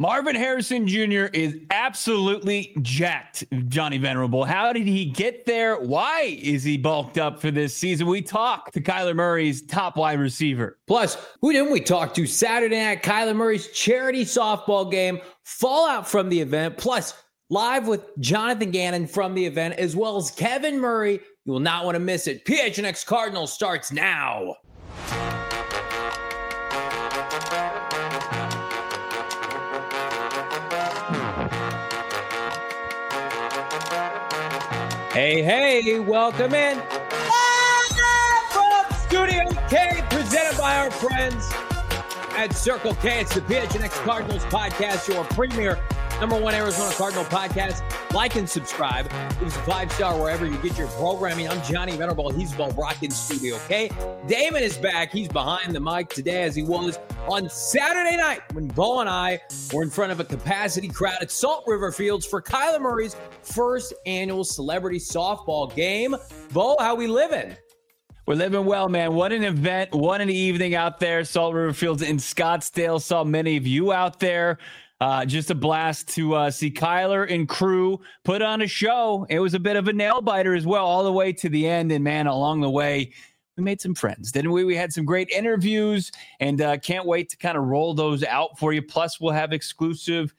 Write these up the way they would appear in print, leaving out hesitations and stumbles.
Marvin Harrison Jr. is absolutely jacked, Johnny Venerable. How did he get there? Why is he bulked up for this season? We talked to Kyler Murray's top wide receiver. Plus, who didn't we talk to Saturday night? Kyler Murray's charity softball game, fallout from the event, plus live with Jonathan Gannon from the event, as well as Kevin Murray. You will not want to miss it. PHNX Cardinals starts now. Hey, welcome in. Live from Studio K, presented by our friends at Circle K. It's the PHNX Cardinals podcast, your premier #1 Arizona Cardinal podcast. Like and subscribe. Give us a 5-star wherever you get your programming. I'm Johnny Venerable. He's Bo Brock in Studio K. Damon is back. He's behind the mic today as he was on Saturday night when Bo and I were in front of a capacity crowd at Salt River Fields for Kyler Murray's first annual celebrity softball game. Bo, how we living? We're living well, man. What an event. What an evening out there. Salt River Fields in Scottsdale. Saw many of you out there. Just a blast to see Kyler and crew put on a show. It was a bit of a nail biter as well, all the way to the end. And man, along the way, we made some friends, didn't we? We had some great interviews and can't wait to kind of roll those out for you. Plus, we'll have exclusive,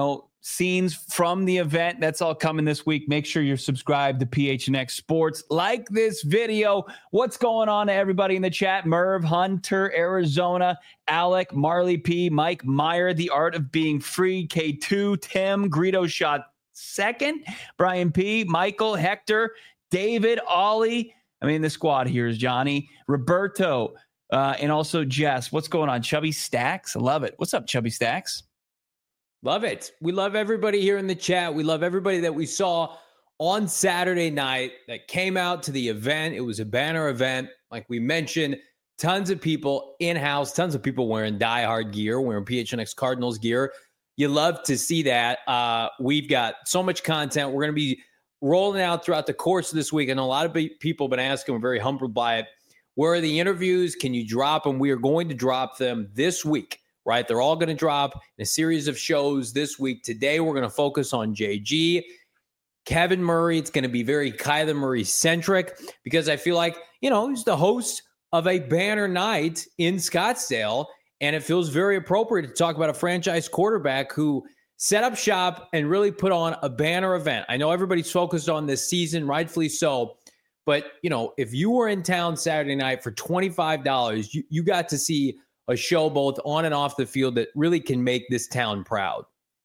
scenes from the event. That's all coming this week. Make sure you're subscribed to PHNX Sports. Like this video. What's going on to everybody in the chat? Merv, Hunter, Arizona, Alec, Marley P, Mike Meyer, The Art of Being Free, K2, Tim, Greedo shot second, Brian P, Michael, Hector, David, Ollie. The squad here is Johnny, Roberto, and also Jess. What's going on? Chubby Stacks. I love it. What's up, Chubby Stacks? Love it. We love everybody here in the chat. We love everybody that we saw on Saturday night that came out to the event. It was a banner event. Like we mentioned, tons of people in-house, tons of people wearing diehard gear, wearing PHNX Cardinals gear. You love to see that. We've got so much content. We're going to be rolling out throughout the course of this week. And a lot of people have been asking, we're very humbled by it. Where are the interviews? Can you drop them? We are going to drop them this week. Right? They're all going to drop in a series of shows this week. Today, we're going to focus on JG, Kevin Murray. It's going to be very Kyler Murray-centric because I feel like, he's the host of a banner night in Scottsdale, and it feels very appropriate to talk about a franchise quarterback who set up shop and really put on a banner event. I know everybody's focused on this season, rightfully so, but, if you were in town Saturday night for $25, you got to see a show both on and off the field that really can make this town proud.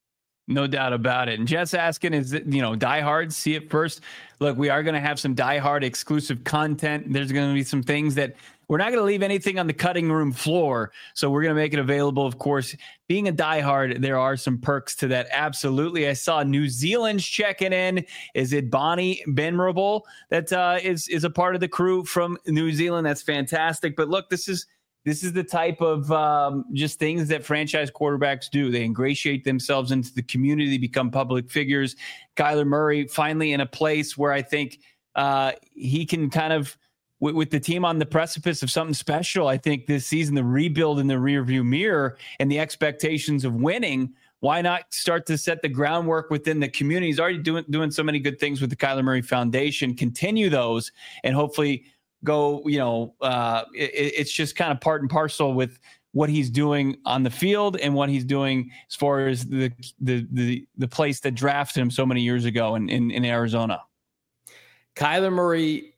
No doubt about it. And Jess asking, is it, diehards see it first? Look, we are going to have some diehard exclusive content. There's going to be some things that we're not going to leave anything on the cutting room floor. So we're going to make it available. Of course, being a diehard, there are some perks to that. Absolutely. I saw New Zealand's checking in. Is it Bonnie Venerable that is a part of the crew from New Zealand? That's fantastic. But look, this is the type of just things that franchise quarterbacks do. They ingratiate themselves into the community, become public figures. Kyler Murray finally in a place where I think he can kind of, with the team on the precipice of something special, I think this season, the rebuild in the rearview mirror and the expectations of winning, why not start to set the groundwork within the community? He's already doing so many good things with the Kyler Murray Foundation. Continue those and hopefully go, it's just kind of part and parcel with what he's doing on the field and what he's doing as far as the place that drafted him so many years ago in Arizona. Kyler Murray,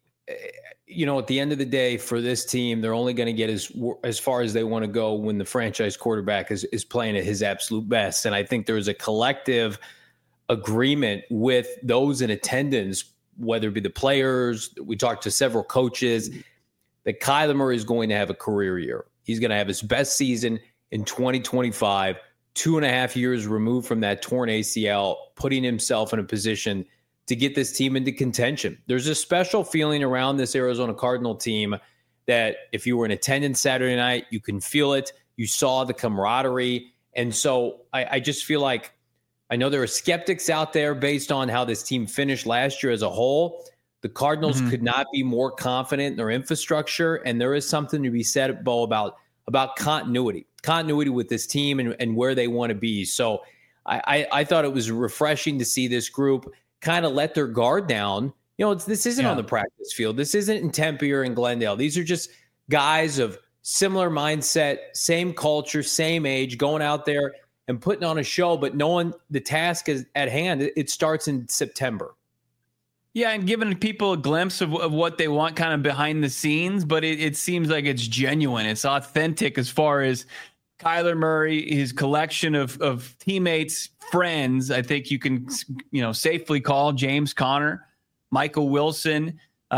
at the end of the day for this team, they're only going to get as far as they want to go when the franchise quarterback is playing at his absolute best. And I think there's a collective agreement with those in attendance, whether it be the players, we talked to several coaches, that Kyler Murray is going to have a career year. He's going to have his best season in 2025, 2.5 years removed from that torn ACL, putting himself in a position to get this team into contention. There's a special feeling around this Arizona Cardinal team that if you were in attendance Saturday night, you can feel it. You saw the camaraderie. And so I just feel like, I know there are skeptics out there based on how this team finished last year as a whole. The Cardinals could not be more confident in their infrastructure, and there is something to be said, Bo, about continuity. continuity with this team and where they want to be. So I thought it was refreshing to see this group kind of let their guard down. This isn't on the practice field. This isn't in Tempe or in Glendale. These are just guys of similar mindset, same culture, same age, going out there and putting on a show, but knowing the task is at hand. It starts in September. Yeah, and giving people a glimpse of what they want kind of behind the scenes, but it seems like it's genuine. It's authentic as far as Kyler Murray, his collection of teammates, friends. I think you can, safely call James Conner, Michael Wilson,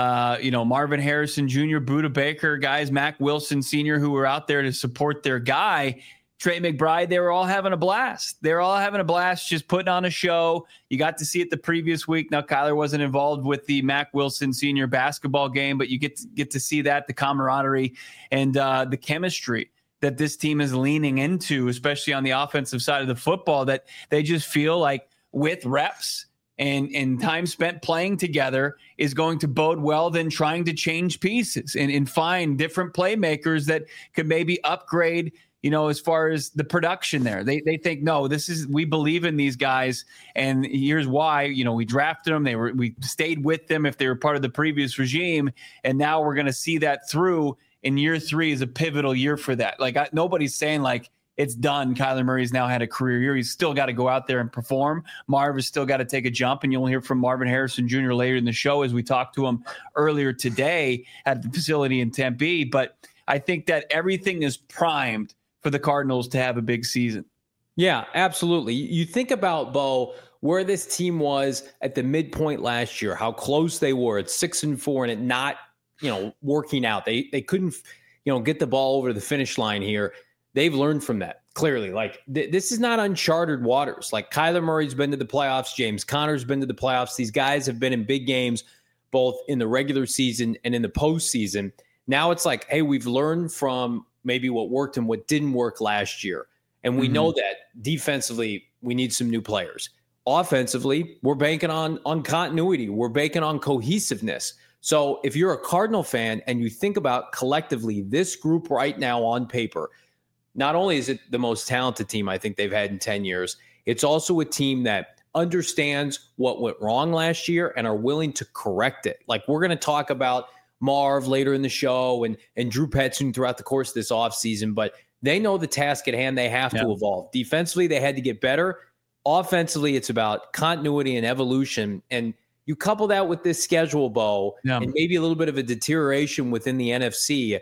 Marvin Harrison Jr., Budda Baker, guys, Mac Wilson Sr., who were out there to support their guy. Trey McBride, they were all having a blast. They were all having a blast, just putting on a show. You got to see it the previous week. Now, Kyler wasn't involved with the Mac Wilson Sr. basketball game, but you get to see that, the camaraderie and the chemistry that this team is leaning into, especially on the offensive side of the football, that they just feel like with reps and time spent playing together is going to bode well than trying to change pieces and find different playmakers that could maybe upgrade as far as the production there. They think, no, we believe in these guys, and here's why. We drafted them. We stayed with them if they were part of the previous regime, and now we're going to see that through. And year 3 is a pivotal year for that. Nobody's saying it's done. Kyler Murray's now had a career year. He's still got to go out there and perform. Marv has still got to take a jump, and you'll hear from Marvin Harrison Jr. later in the show as we talked to him earlier today at the facility in Tempe. But I think that everything is primed for the Cardinals to have a big season. Yeah, absolutely. You think about, Bo, where this team was at the midpoint last year, how close they were at 6-4 and it not, working out. They couldn't, get the ball over the finish line here. They've learned from that, clearly. This is not uncharted waters. Kyler Murray's been to the playoffs. James Conner's been to the playoffs. These guys have been in big games, both in the regular season and in the postseason. Now it's hey, we've learned from maybe what worked and what didn't work last year. And we know that defensively, we need some new players. Offensively, we're banking on continuity. We're banking on cohesiveness. So if you're a Cardinal fan and you think about collectively this group right now on paper, not only is it the most talented team I think they've had in 10 years, it's also a team that understands what went wrong last year and are willing to correct it. We're going to talk about Marv later in the show and Drew Petzing throughout the course of this offseason, but they know the task at hand. They have to evolve. Defensively, they had to get better. Offensively, it's about continuity and evolution. And you couple that with this schedule, Bo, and maybe a little bit of a deterioration within the NFC.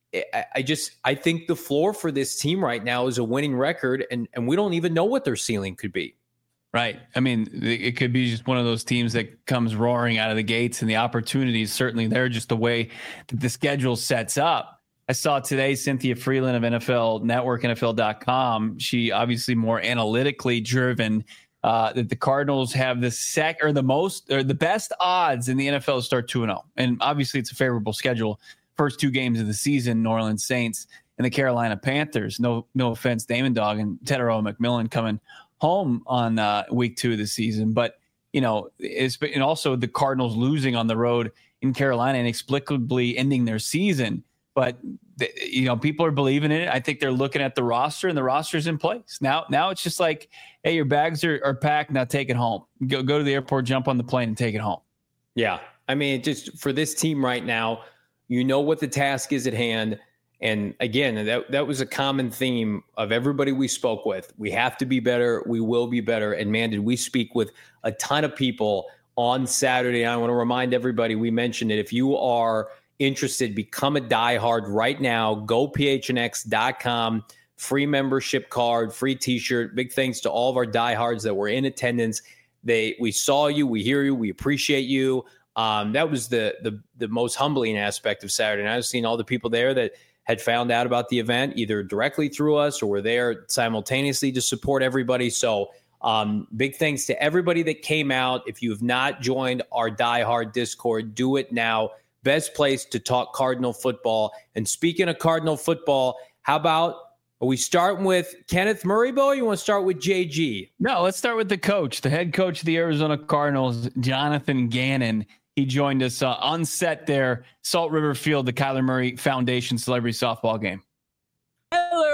I think the floor for this team right now is a winning record, and we don't even know what their ceiling could be. Right. I mean, it could be just one of those teams that comes roaring out of the gates, and the opportunities certainly there, just the way that the schedule sets up. I saw today Cynthia Freeland of NFL Network, NFL.com. She obviously more analytically driven, that the Cardinals have the best odds in the NFL to start 2-0. And obviously it's a favorable schedule. First 2 games of the season, New Orleans Saints and the Carolina Panthers. No offense, Damon Dog and Tetairoa McMillan coming home on week 2 of the season. But, and also the Cardinals losing on the road in Carolina, inexplicably ending their season. But, people are believing in it. I think they're looking at the roster, and the roster's in place. Now it's just hey, your bags are packed. Now take it home. Go to the airport, jump on the plane, and take it home. Yeah. I mean, just for this team right now, what the task is at hand. And again, that was a common theme of everybody we spoke with. We have to be better. We will be better. And man, did we speak with a ton of people on Saturday. I want to remind everybody, we mentioned it. If you are interested, become a diehard right now. Go phnx.com. Free membership card, free t-shirt. Big thanks to all of our diehards that were in attendance. We saw you, we hear you, we appreciate you. That was the most humbling aspect of Saturday night. I've seen all the people there that had found out about the event either directly through us or were there simultaneously to support everybody. So big thanks to everybody that came out. If you have not joined our diehard Discord, do it now. Best place to talk Cardinal football. And speaking of Cardinal football, how about, are we starting with Kenneth Murray, Bo, or you want to start with JG? No, let's start with the coach, the head coach of the Arizona Cardinals, Jonathan Gannon. He joined us on set there, Salt River Field, the Kyler Murray Foundation Celebrity Softball game. Hello,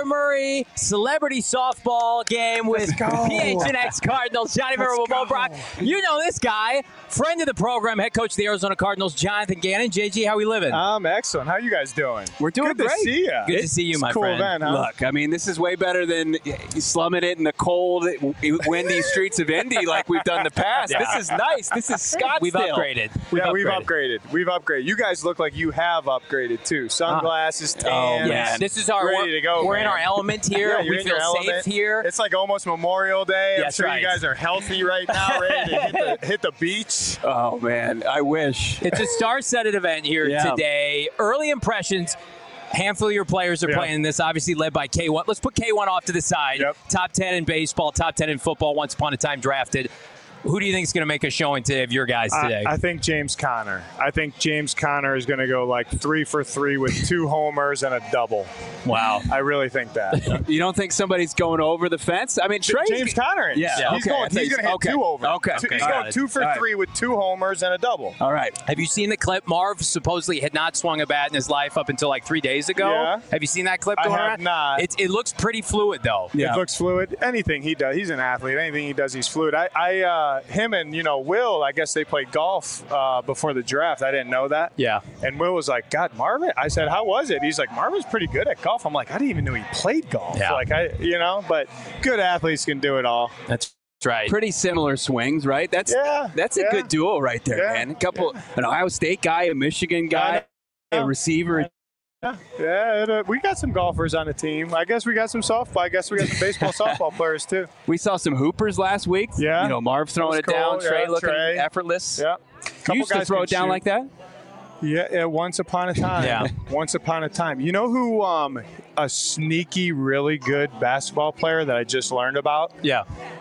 Kyler Murray celebrity softball game with PHNX Cardinals. Johnny Verbo, Brock. You know this guy, friend of the program, head coach of the Arizona Cardinals, Jonathan Gannon. JG, how we living? I'm excellent. How you guys doing? We're doing Good great. to see you. Good to see you, my cool friend. Event, huh? Look, I mean, this is way better than slumming it in the cold, windy streets of Indy like we've done in the past. Yeah. This is nice. This is Scottsdale. We've upgraded. We've upgraded. You guys look like you have upgraded too. Sunglasses, tan. Yeah, this is our ready to go. We're man. in our element here. Yeah, you're we in feel your safe element. here. It's like almost Memorial Day. That's I'm sure right. you guys are healthy right now, ready to hit the beach. Oh, man. I wish. It's a star-studded event here today. Early impressions. Handful of your players are playing in this, obviously led by K1. Let's put K1 off to the side. Yep. Top 10 in baseball, top 10 in football, once upon a time drafted. Who do you think is going to make a showing today of your guys today? I think James Conner. I think James Conner is going to go like 3 for 3 with 2 homers and a double. Wow. I really think that. You don't think somebody's going over the fence? I mean, Trey's James Conner is. Yeah, He's okay. going to hit 2 over. Okay. He's Got going it. 2 for 3 with 2 homers and a double. All right. Have you seen the clip? Marv supposedly had not swung a bat in his life up until like 3 days ago. Yeah. Have you seen that clip I going have around? not. It looks pretty fluid, though. Yeah. It looks fluid. Anything he does, he's an athlete. Anything he does, he's fluid. Him and Will, I guess they played golf before the draft. I didn't know that. Yeah. And Will was like, God, Marvin. I said, how was it? He's like, Marvin's pretty good at golf. I'm like, I didn't even know he played golf. Yeah. But good athletes can do it all. That's right. Pretty similar swings, right? That's a good duo right there, man. A couple, an Ohio State guy, a Michigan guy, a receiver. Yeah, we got some golfers on the team. I guess we got some softball. I guess we got some baseball, softball players too. We saw some hoopers last week. Yeah. Marv throwing it That was down, cool. Trey Yeah, looking Trey. effortless. Yeah. You used to throw it down like that? Yeah, once upon a time. Yeah. Once upon a time. You know who a sneaky, really good basketball player that I just learned about Yeah.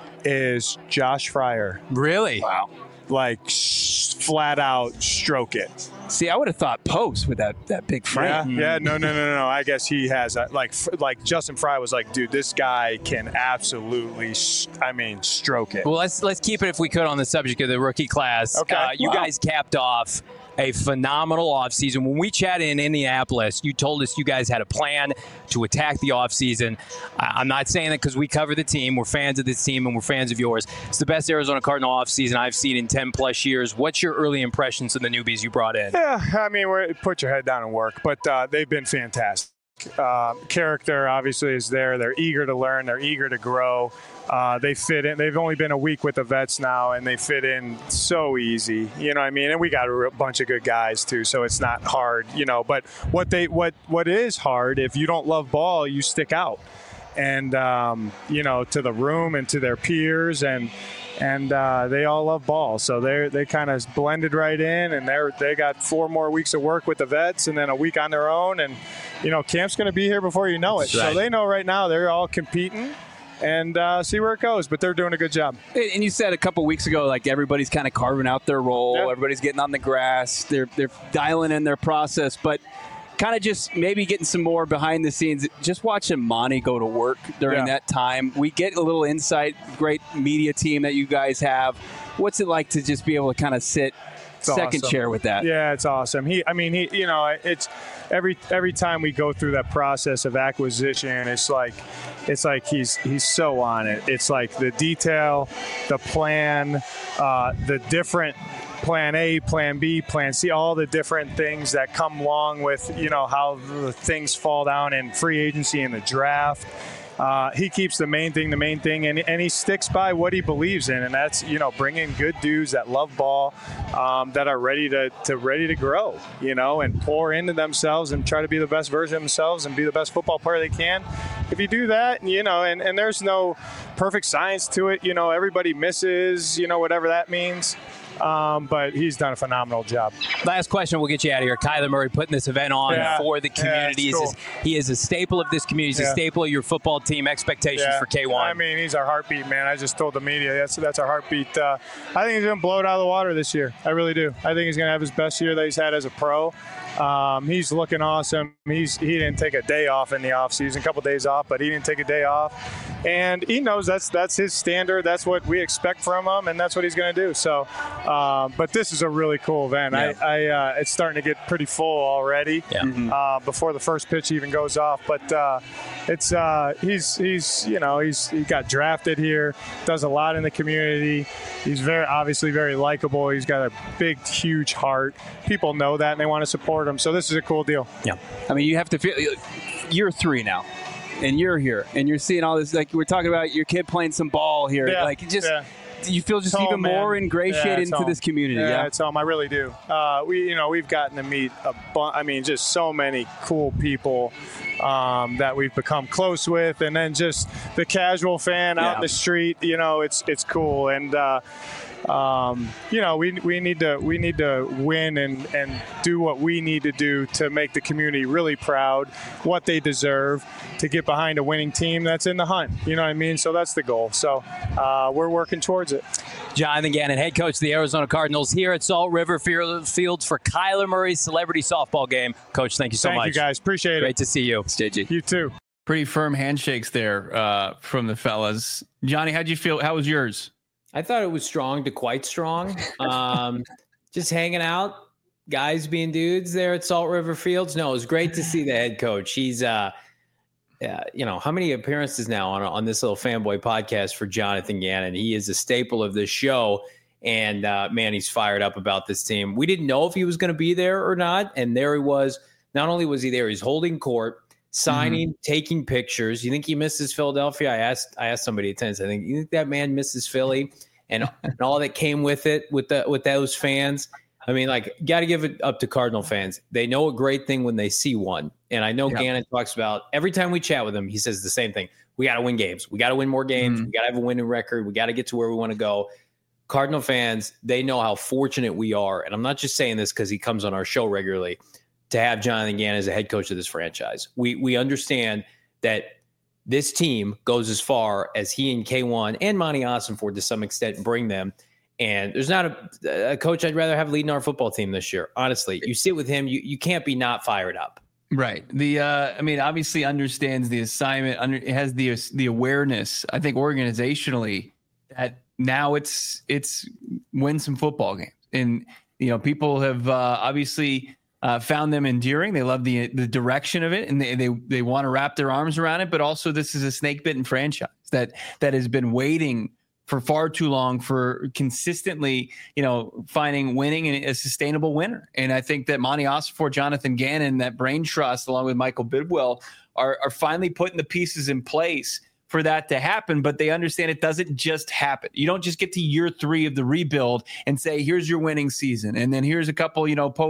is Josh Fryer. Really? Wow. Like, flat out stroke it. See, I would have thought post with that big frame. Yeah, no. I guess he has that. Like Justin Fry was like, dude, this guy can absolutely, stroke it. Well, let's keep it, if we could, on the subject of the rookie class. Okay. You guys capped off a phenomenal offseason. When we chatted in Indianapolis, you told us you guys had a plan to attack the offseason. I'm not saying that because we cover the team. We're fans of this team and we're fans of yours. It's the best Arizona Cardinal offseason I've seen in 10-plus years. What's your early impressions of the newbies you brought in? Yeah, put your head down and work, but they've been fantastic. Character obviously is there. They're eager to learn. They're eager to grow. They fit in. They've only been a week with the vets now, and they fit in so easy. You know what I mean? And we got a bunch of good guys too, so it's not hard. But what is hard, if you don't love ball, you stick out, and to the room and to their peers, and they all love ball, so they kind of blended right in, and they got 4 more weeks of work with the vets, and then a week on their own, and camp's going to be here before you know it. That's right. So they know right now they're all competing. And see where it goes, but they're doing a good job. And you said a couple weeks ago, like, everybody's kind of carving out their role. Yep. Everybody's getting on the grass. They're dialing in their process, but kind of just maybe getting some more behind the scenes. Just watching Monty go to work during that time. We get a little insight. Great media team that you guys have. What's it like to just be able to kind of sit second awesome. chair with that? Yeah, it's awesome. It's every time we go through that process of acquisition, it's like he's so on it. It's like the detail, the plan, the different plan A, plan B, plan C, all the different things that come along with, how the things fall down in free agency and the draft. He keeps the main thing, and he sticks by what he believes in, and that's bringing good dudes that love ball, that are ready to grow, and pour into themselves and try to be the best version of themselves and be the best football player they can. If you do that, and there's no perfect science to it, everybody misses, whatever that means. But he's done a phenomenal job. Last question, we'll get you out of here. Kyler Murray putting this event on for the community. Cool. He is a staple of this community. He's a staple of your football team. Expectations for K1. He's our heartbeat, man. I just told the media that's our heartbeat. I think he's going to blow it out of the water this year. I really do. I think he's going to have his best year that he's had as a pro. He's looking awesome. He didn't take a day off in the offseason, a couple days off, but he didn't take a day off. and he knows that's his standard. That's what we expect from him, and that's what he's going to do. So, but this is a really cool event. Yeah. It's starting to get pretty full already before the first pitch even goes off. But he got drafted here, does a lot in the community. He's obviously very likable. He's got a big, huge heart. People know that, and they want to support him. So this is a cool deal. Yeah. I mean, you have to feel you're 3 now, and you're here, and you're seeing all this. Like we're talking about your kid playing some ball here. Yeah. Like you feel just even more ingratiated into this community. Yeah, it's home. I really do. We've gotten to meet just so many cool people that we've become close with, and then just the casual fan out in the street. It's cool, and we need to win and do what we need to do to make the community really proud, what they deserve, to get behind a winning team that's in the hunt. You know what I mean? So that's the goal. So we're working towards it. Jonathan Gannon, head coach of the Arizona Cardinals, here at Salt River Fields for Kyler Murray's celebrity softball game. Coach, thank you so much. Thank you, guys. Appreciate it. Great to see you. JG. You too. Pretty firm handshakes there from the fellas. Johnny, how'd you feel? How was yours? I thought it was strong to quite strong. Just hanging out, guys being dudes there at Salt River Fields. No, it was great to see the head coach. He's, how many appearances now on this little fanboy podcast for Jonathan Gannon? He is a staple of this show. And, man, he's fired up about this team. We didn't know if he was going to be there or not. And there he was. Not only was he there, he's holding court, signing, taking pictures. You think he misses Philadelphia? I asked somebody at tennis. I think, you think that man misses Philly and all that came with it with those fans? I mean, got to give it up to Cardinal fans. They know a great thing when they see one. And I know Gannon talks about every time we chat with him, he says the same thing. We got to win games. We got to win more games. We got to have a winning record. We got to get to where we want to go. Cardinal fans, they know how fortunate we are. And I'm not just saying this because he comes on our show regularly, to have Jonathan Gannon as a head coach of this franchise. We understand that this team goes as far as he and K1 and Monty Ossenford to some extent bring them. And there's not a coach I'd rather have leading our football team this year. Honestly, you sit with him, you can't be not fired up. Right. Obviously understands the assignment, has the awareness, I think organizationally, that now it's win some football games. And, people have obviously found them endearing. They love the direction of it, and they want to wrap their arms around it. But also, this is a snake-bitten franchise that has been waiting for far too long for consistently, finding winning and a sustainable winner. And I think that Monty Ossenford, Jonathan Gannon, that brain trust, along with Michael Bidwell, are finally putting the pieces in place for that to happen, but they understand it doesn't just happen. You don't just get to year 3 of the rebuild and say, here's your winning season. And then here's a couple,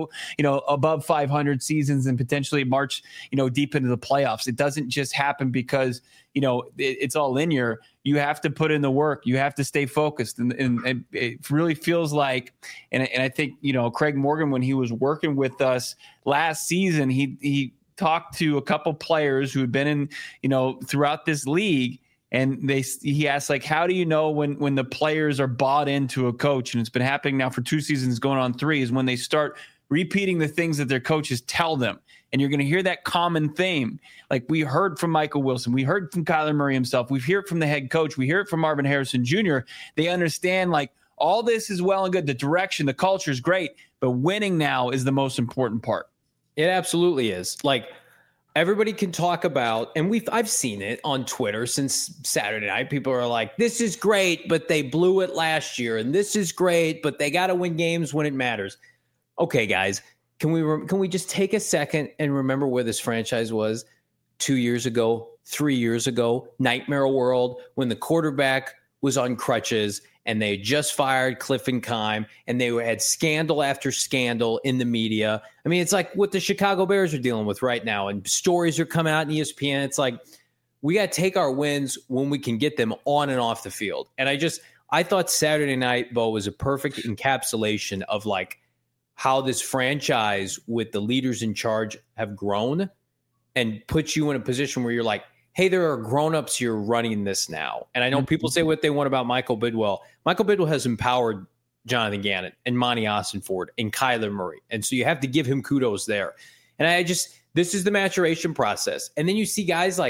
above 500 seasons and potentially march, deep into the playoffs. It doesn't just happen because, it's all linear. You have to put in the work. You have to stay focused. And it really feels like, and I think, Craig Morgan, when he was working with us last season, he talked to a couple players who had been in, throughout this league. And he asked, how do you know when the players are bought into a coach? And it's been happening now for 2 seasons, going on 3, is when they start repeating the things that their coaches tell them. And you're going to hear that common theme. Like we heard from Michael Wilson. We heard from Kyler Murray himself. We hear it from the head coach. We hear it from Marvin Harrison Jr. They understand all this is well and good. The direction, the culture is great, but winning now is the most important part. It absolutely is. Everybody can talk about, and I've seen it on Twitter since Saturday night. People are like, this is great, but they blew it last year. And this is great, but they got to win games when it matters. Okay, guys, can we just take a second and remember where this franchise was 2 years ago, 3 years ago, nightmare world, when the quarterback was on crutches and they just fired Cliff and Keim, and they had scandal after scandal in the media. I mean, it's like what the Chicago Bears are dealing with right now, and stories are coming out in ESPN. It's like we got to take our wins when we can get them on and off the field. And I thought Saturday night, Bo, was a perfect encapsulation of how this franchise with the leaders in charge have grown and puts you in a position where you're like, hey, there are grown-ups here running this now. And I know people say what they want about Michael Bidwell. Michael Bidwell has empowered Jonathan Gannon and Monty Ossenford and Kyler Murray. And so you have to give him kudos there. And this is the maturation process. And then you see guys like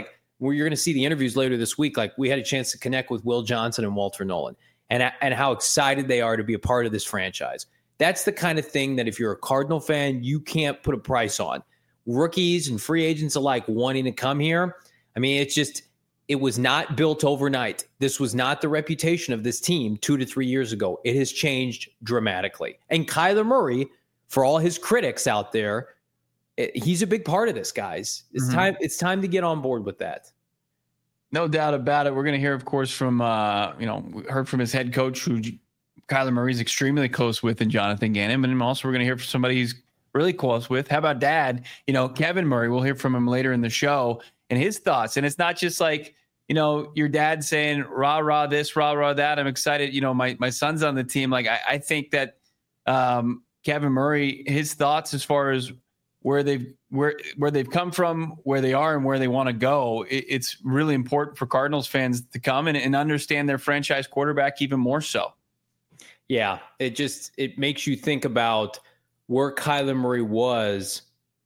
where you're going to see the interviews later this week. Like, we had a chance to connect with Will Johnson and Walter Nolan, and how excited they are to be a part of this franchise. That's the kind of thing that if you're a Cardinal fan, you can't put a price on. Rookies and free agents alike wanting to come here. I mean, it was not built overnight. This was not the reputation of this team 2 to 3 years ago. It has changed dramatically. And Kyler Murray, for all his critics out there, he's a big part of this, guys. It's time to get on board with that. No doubt about it. We're going to hear, of course, from, we heard from his head coach, who Kyler Murray's extremely close with, and Jonathan Gannon. And also we're going to hear from somebody he's really close with. How about Dad? Kevin Murray. We'll hear from him later in the show and his thoughts. And it's not just like, your dad saying, rah, rah, this, rah, rah, that. I'm excited. My son's on the team. Like, I think that Kevin Murray, his thoughts as far as where they've come from, where they are, and where they want to go. It's really important for Cardinals fans to come and understand their franchise quarterback even more so. Yeah, it makes you think about where Kyler Murray was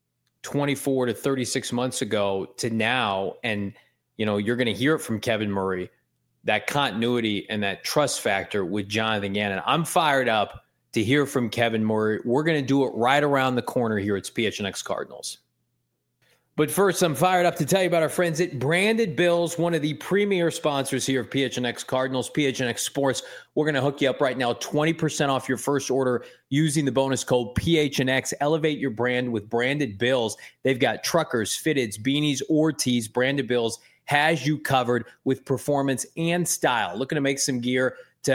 24 to 36 months ago to now. And, you're going to hear it from Kevin Murray, that continuity and that trust factor with Jonathan Gannon. I'm fired up to hear from Kevin Murray. We're going to do it right around the corner here at PHNX Cardinals. But first, I'm fired up to tell you about our friends at Branded Bills, one of the premier sponsors here of PHNX Cardinals, PHNX Sports. We're going to hook you up right now, 20% off your first order using the bonus code PHNX. Elevate your brand with Branded Bills. They've got truckers, fitteds, beanies, or tees. Branded Bills has you covered with performance and style. Looking to have some gear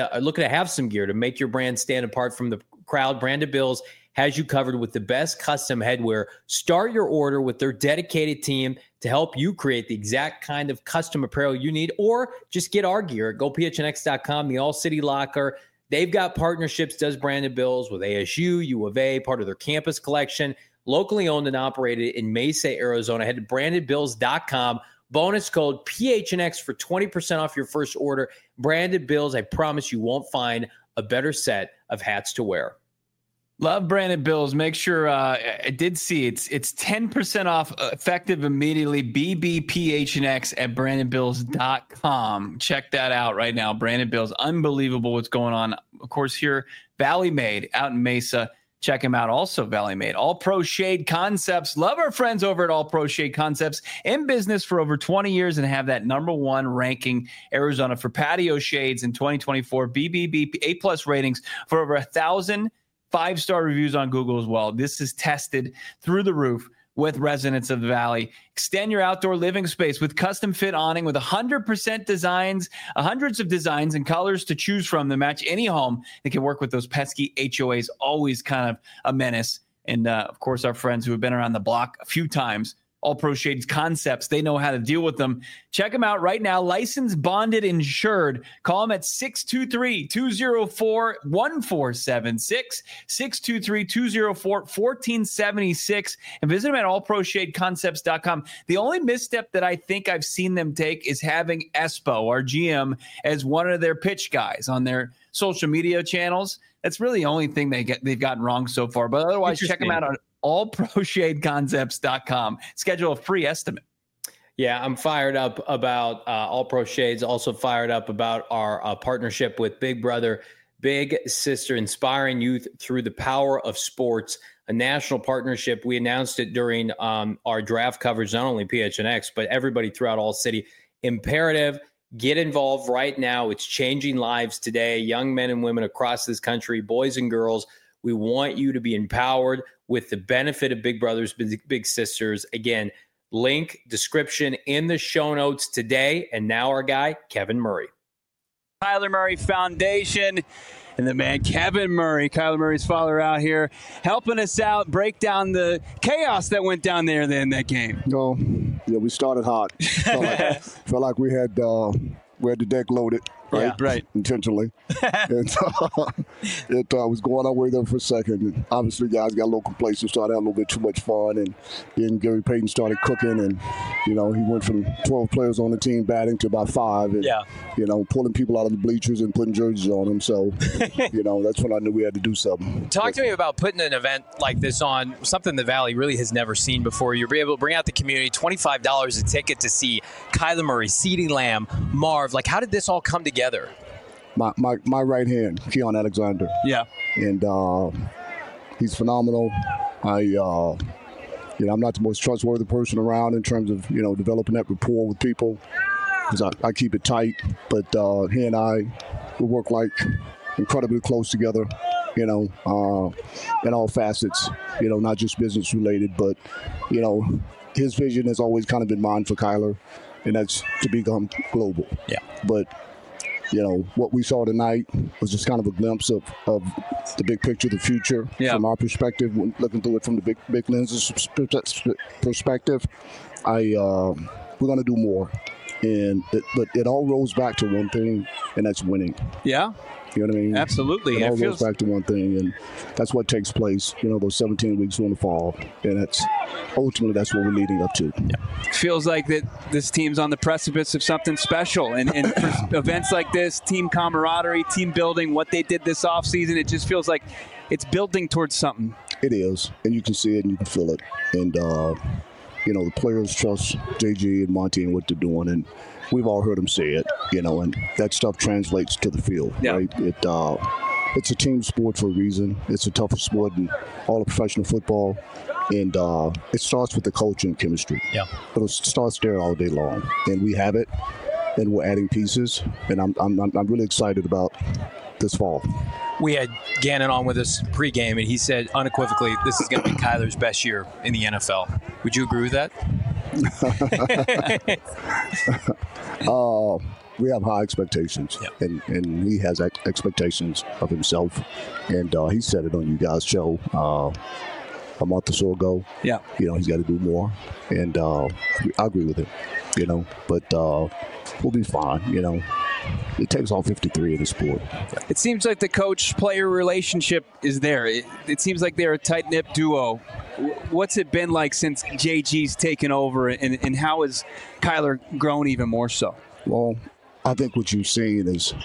to make your brand stand apart from the crowd. Branded Bills has you covered with the best custom headwear. Start your order with their dedicated team to help you create the exact kind of custom apparel you need, or just get our gear at gophnx.com, the All City Locker. They've got partnerships, does Branded Bills, with ASU, U of A, part of their campus collection, locally owned and operated in Mesa, Arizona. Head to brandedbills.com. Bonus code PHNX for 20% off your first order. Branded Bills, I promise you won't find a better set of hats to wear. Love Branded Bills. Make sure I did see it's 10% off effective immediately. BBPHNX at brandedbills.com. Check that out right now. Branded Bills. Unbelievable what's going on. Of course, here, Valley Made out in Mesa. Check them out. Also, Valley Made. All Pro Shade Concepts. Love our friends over at All Pro Shade Concepts. In business for over 20 years and have that #1 ranking Arizona for patio shades in 2024. BBB A+ ratings for over 1,000 5-star reviews on Google as well. This is tested through the roof with residents of the Valley. Extend your outdoor living space with custom fit awning with 100% designs, hundreds of designs and colors to choose from to match any home. They can work with those pesky HOAs, always kind of a menace. And of course, our friends who have been around the block a few times, All Pro Shades Concepts, they know how to deal with them. Check them out right now. Licensed, bonded, insured. Call them at 623-204-1476, 623-204-1476, and visit them at allproshadeconcepts.com. The only misstep that I think I've seen them take is having Espo, our GM, as one of their pitch guys on their social media channels. That's really the only thing they've gotten wrong so far. But otherwise, check them out on allproshadeconcepts.com. Schedule a free estimate. Yeah, I'm fired up about All Pro Shades. Also fired up about our partnership with Big Brother, Big Sister, inspiring youth through the power of sports, a national partnership. We announced it during our draft coverage, not only PHNX, but everybody throughout All City. Imperative. Get involved right now. It's changing lives today. Young men and women across this country, boys and girls. We want you to be empowered with the benefit of Big Brothers, Big Sisters. Again, link, description in the show notes today. And now our guy, Kevin Murray. Kyler Murray Foundation and the man Kevin Murray, Kyler Murray's father, out here helping us out, break down the chaos that went down there in that game. Yeah, we started hot. Felt like we had the deck loaded. Yeah, right. Intentionally. And it was going our way there for a second. And obviously, guys got a little complacent, started having a little bit too much fun. And then Gary Payton started cooking. And, he went from 12 players on the team batting to about 5. And, pulling people out of the bleachers and putting jerseys on them. So, that's when I knew we had to do something. Talk to me about putting an event like this on, something the Valley really has never seen before. You'll be able to bring out the community, $25 a ticket to see Kyler Murray, CeeDee Lamb, Marv. Like, how did this all come together? My right hand, Keon Alexander. Yeah. And he's phenomenal. I'm not the most trustworthy person around in terms of, developing that rapport with people, because I keep it tight. But he and I, we work like incredibly close together, in all facets, not just business related, but, his vision has always kind of been mine for Kyler, and that's to become global. Yeah. But, what we saw tonight was just kind of a glimpse of the big picture, the future, from our perspective, looking through it from the big lenses perspective. We're going to do more. But it all rolls back to one thing, and that's winning. Yeah. You know what I mean? Absolutely. It all goes back to one thing, and that's what takes place, those 17 weeks in the fall. And ultimately that's what we're leading up to. Yeah. Feels like that this team's on the precipice of something special. And for events like this, team camaraderie, team building, what they did this offseason, it just feels like it's building towards something. It is, and you can see it and you can feel it. And, the players trust JG and Monty and what they're doing, and we've all heard them say it, and that stuff translates to the field, right? It's a team sport for a reason. It's the toughest sport in all of professional football, and it starts with the culture and chemistry. Yeah, but it starts there all day long, and we have it, and we're adding pieces, and I'm really excited about this fall. We had Gannon on with us pregame, and he said unequivocally this is going to be Kyler's best year in the NFL. Would you agree with that? We have high expectations, and he has expectations of himself, and he said it on you guys' show a month or so ago. Yeah, he's got to do more, and I agree with him. But we'll be fine. It takes all 53 in the sport. It seems like the coach-player relationship is there. It seems like they're a tight-knit duo. What's it been like since JG's taken over, and how has Kyler grown even more so? Well, I think what you've seen is,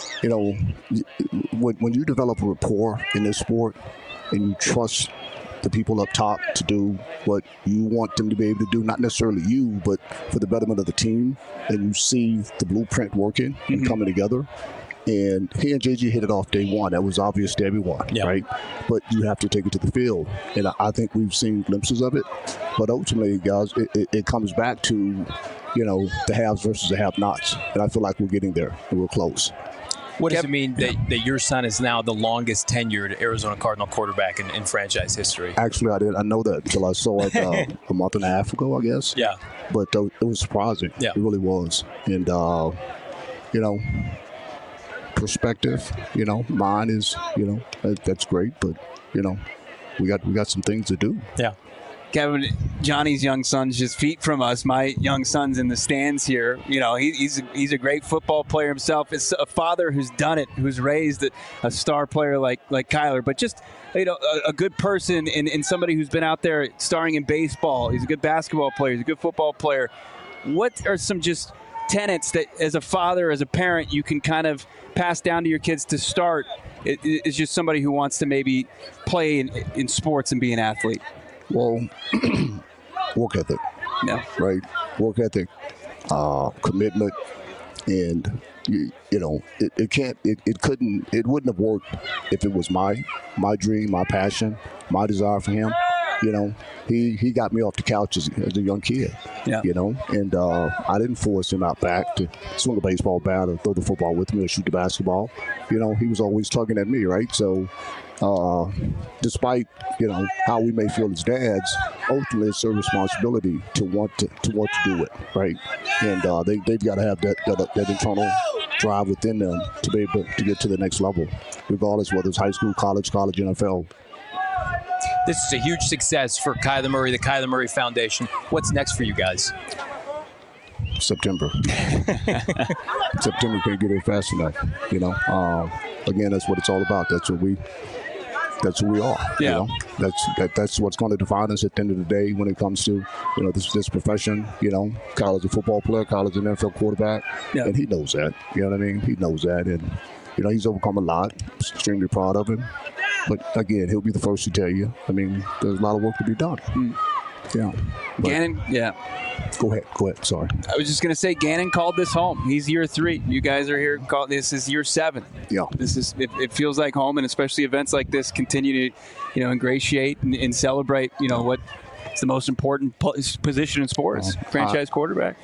when you develop a rapport in this sport and you trust the people up top to do what you want them to be able to do, not necessarily you, but for the betterment of the team, and you see the blueprint working and coming together. And he and JG hit it off day one. That was obvious to everyone, right? But you have to take it to the field. And I think we've seen glimpses of it. But ultimately, guys, it comes back to, the haves versus the have-nots. And I feel like we're getting there, and we're close. What does it mean that your son is now the longest tenured Arizona Cardinal quarterback in franchise history? Actually, I know that until I saw it a month and a half ago, I guess. Yeah. But it was surprising. Yeah. It really was. And, perspective, mine is, that's great. But, we got some things to do. Yeah. Kevin, Johnny's young son's just feet from us. My young son's in the stands here. He's a great football player himself. It's a father who's done it, who's raised a star player like Kyler, but just a good person and somebody who's been out there starring in baseball. He's a good basketball player. He's a good football player. What are some just tenets that, as a father, as a parent, you can kind of pass down to your kids to start? It's just somebody who wants to maybe play in sports and be an athlete. Well, work ethic, right? Work ethic, commitment, and it wouldn't have worked if it was my dream, my passion, my desire for him. He got me off the couch as a young kid. Yeah. And I didn't force him out back to swing a baseball bat or throw the football with me or shoot the basketball. He was always tugging at me, right? So. Despite how we may feel as dads, ultimately it's their responsibility to want to do it, right? And they've got to have that internal drive within them to be able to get to the next level, regardless whether it's high school, college, NFL. This is a huge success for Kyler Murray, the Kyler Murray Foundation. What's next for you guys? September. September can't get here fast enough. Again, that's what it's all about. That's who we are. Yeah. That's what's going to define us at the end of the day when it comes to this profession. Kyle is a football player. Kyle is an NFL quarterback, and he knows that. You know what I mean? He knows that, and he's overcome a lot. Extremely proud of him. But again, he'll be the first to tell you. I mean, there's a lot of work to be done. Yeah. Gannon, Go ahead. Sorry. I was just going to say, Gannon called this home. He's year 3. You guys are here. This is year 7. Yeah. It feels like home, and especially events like this continue to, ingratiate and celebrate, what is the most important position in sports, franchise quarterback.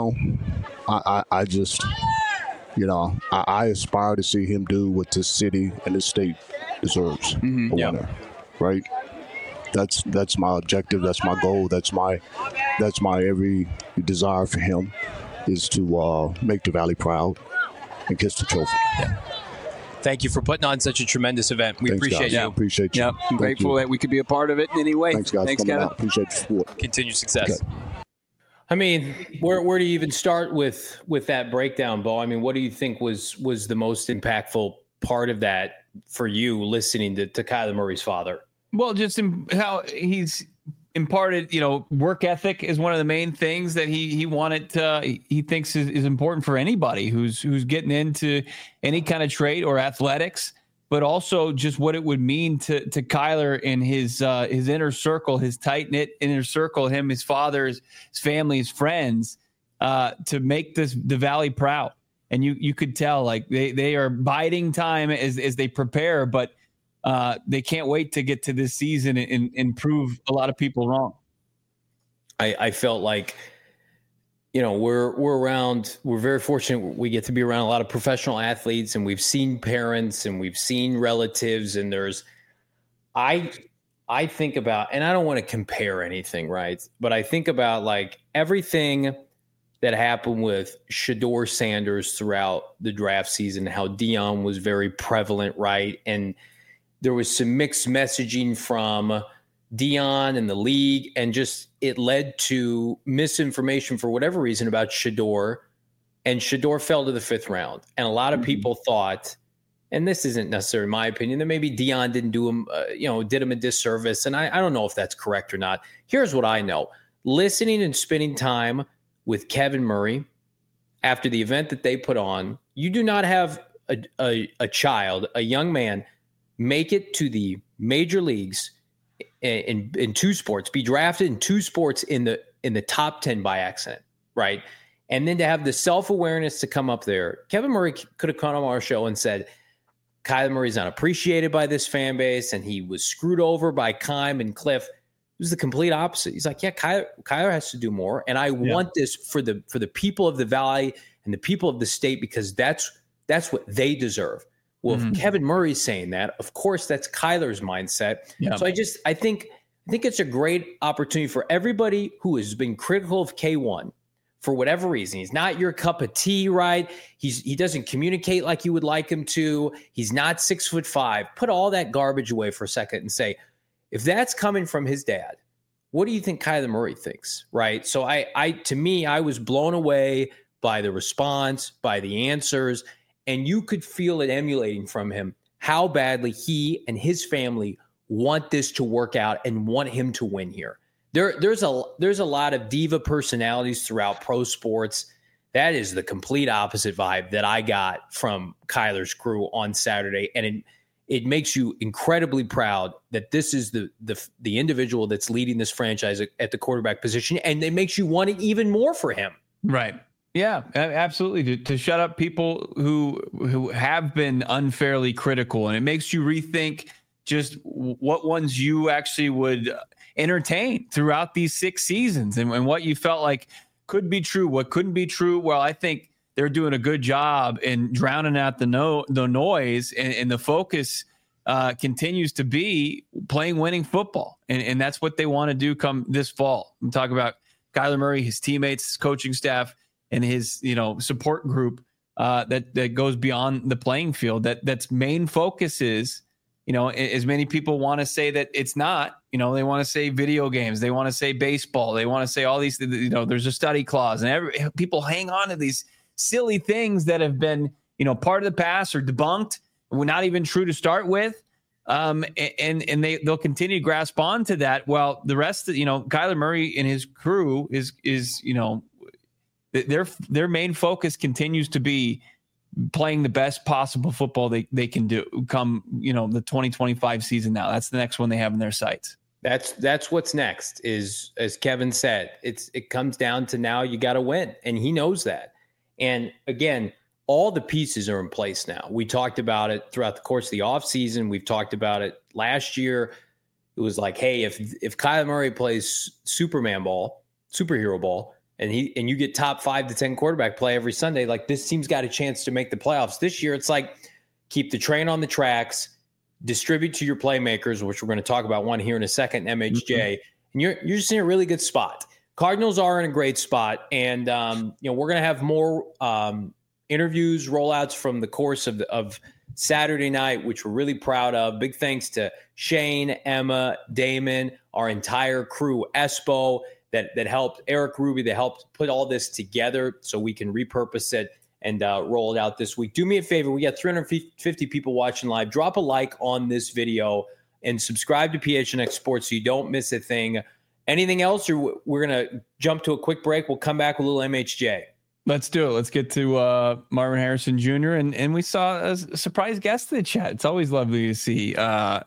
I just, I aspire to see him do what this city and this state deserves. A winner, right? That's my objective. That's my goal. That's my every desire for him is to make the Valley proud and kiss the trophy. Yeah. Thank you for putting on such a tremendous event. We appreciate you. Appreciate you. Yeah, I'm grateful that we could be a part of it in any way. Thanks, guys. Thanks, Kevin. Appreciate the support. Continued success. Okay. I mean, where do you even start with that breakdown, Bo? I mean, what do you think was the most impactful part of that for you listening to Kyler Murray's father? Well, just how he's imparted, work ethic is one of the main things that he wanted he thinks is important for anybody who's getting into any kind of trade or athletics, but also just what it would mean to Kyler and his inner circle, his tight knit inner circle, him, his father, his family, his friends, to make the Valley proud. And you could tell like they are biding time as they prepare, but they can't wait to get to this season and prove a lot of people wrong. I felt like, we're very fortunate. We get to be around a lot of professional athletes, and we've seen parents and we've seen relatives, and I think about, and I don't want to compare anything, right? But I think about like everything that happened with Shedeur Sanders throughout the draft season, how Deion was very prevalent, right? And there was some mixed messaging from Deion and the league, and just it led to misinformation for whatever reason about Shedeur, and Shedeur fell to the 5th round. And a lot of people thought, and this isn't necessarily my opinion, that maybe Deion didn't do him, did him a disservice. And I don't know if that's correct or not. Here's what I know. Listening and spending time with Kevin Murray after the event that they put on, you do not have a child, a young man, make it to the major leagues in 2 sports, be drafted in 2 sports in the top 10 by accident, right? And then to have the self-awareness to come up there. Kevin Murray could have come on our show and said, Kyler Murray's not appreciated by this fan base, and he was screwed over by Keim and Cliff. It was the complete opposite. He's like, yeah, Kyler has to do more, and I want this for the people of the Valley and the people of the state, because that's what they deserve. Well, if Kevin Murray's saying that, of course, that's Kyler's mindset. Yeah. So I think it's a great opportunity for everybody who has been critical of K1 for whatever reason. He's not your cup of tea, right? He doesn't communicate like you would like him to. He's not 6'5". Put all that garbage away for a second and say, if that's coming from his dad, what do you think Kyler Murray thinks, right? So to me, I was blown away by the response, by the answers. And you could feel it emulating from him how badly he and his family want this to work out and want him to win here. There's a lot of diva personalities throughout pro sports. That is the complete opposite vibe that I got from Kyler's crew on Saturday. And it makes you incredibly proud that this is the individual that's leading this franchise at the quarterback position. And it makes you want it even more for him. Right. Yeah, absolutely. To shut up people who have been unfairly critical, and it makes you rethink just what ones you actually would entertain throughout these 6 seasons, and what you felt like could be true, what couldn't be true. Well, I think they're doing a good job in drowning out the noise, and the focus continues to be playing winning football, and that's what they want to do come this fall. I'm talking about Kyler Murray, his teammates, his coaching staff, and his support group that goes beyond the playing field. That's main focus is, as many people want to say that it's not, You know, they want to say video games. They want to say baseball. They want to say all these, you know, there's a study clause, and people hang on to these silly things that have been, you know, part of the past or debunked. We're not even true to start with. And they'll continue to grasp on to that. Well, the rest of, you know, Kyler Murray and his crew is, you know, their main focus continues to be playing the best possible football they can do come, you know, the 2025 season. Now that's the next one they have in their sights. That's what's next is, as Kevin said, it comes down to now you got to win, and he knows that. And again, all the pieces are in place now. We talked about it throughout the course of the offseason. We've talked about it last year. It was like, hey, if Kyler Murray plays superhero ball, and you get top 5 to 10 quarterback play every Sunday, like, this team's got a chance to make the playoffs. This year, it's like, keep the train on the tracks, distribute to your playmakers, which we're going to talk about one here in a second, MHJ, and you're just in a really good spot. Cardinals are in a great spot, and you know, we're going to have more interviews, rollouts from the course of Saturday night, which we're really proud of. Big thanks to Shane, Emma, Damon, our entire crew, Espo, that helped, Eric Ruby, that helped put all this together so we can repurpose it and roll it out this week. Do me a favor. We got 350 people watching live. Drop a like on this video and subscribe to PHNX Sports so you don't miss a thing. Anything else, or we're going to jump to a quick break? We'll come back with a little MHJ. Let's do it. Let's get to Marvin Harrison Jr. And we saw a surprise guest in the chat. It's always lovely to see as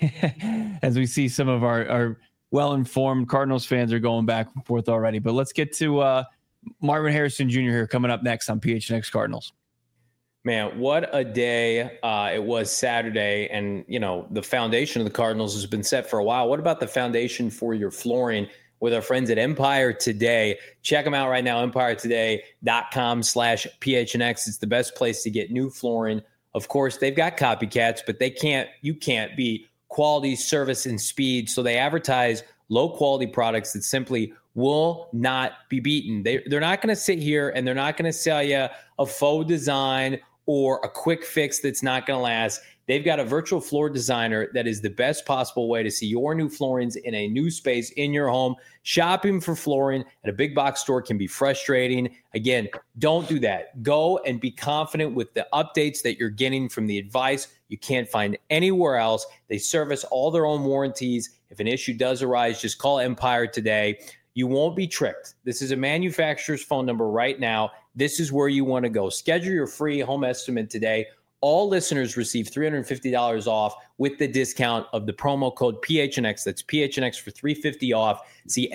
we see some of our well-informed Cardinals fans are going back and forth already. But let's get to Marvin Harrison Jr. here coming up next on PHNX Cardinals. Man, what a day it was Saturday. And, you know, the foundation of the Cardinals has been set for a while. What about the foundation for your flooring with our friends at Empire Today? Check them out right now, empiretoday.com/PHNX. It's the best place to get new flooring. Of course, they've got copycats, but you can't beat quality, service, and speed. So they advertise low-quality products that simply will not be beaten. They're not going to sit here and they're not going to sell you a faux design or a quick fix that's not going to last. They've got a virtual floor designer that is the best possible way to see your new floorings in a new space in your home. Shopping for flooring at a big box store can be frustrating. Again, don't do that. Go and be confident with the updates that you're getting from the advice you can't find anywhere else. They service all their own warranties. If an issue does arise, just call Empire Today. You won't be tricked. This is a manufacturer's phone number right now. This is where you want to go. Schedule your free home estimate today. All listeners receive $350 off with the discount of the promo code PHNX. That's PHNX for $350 off. See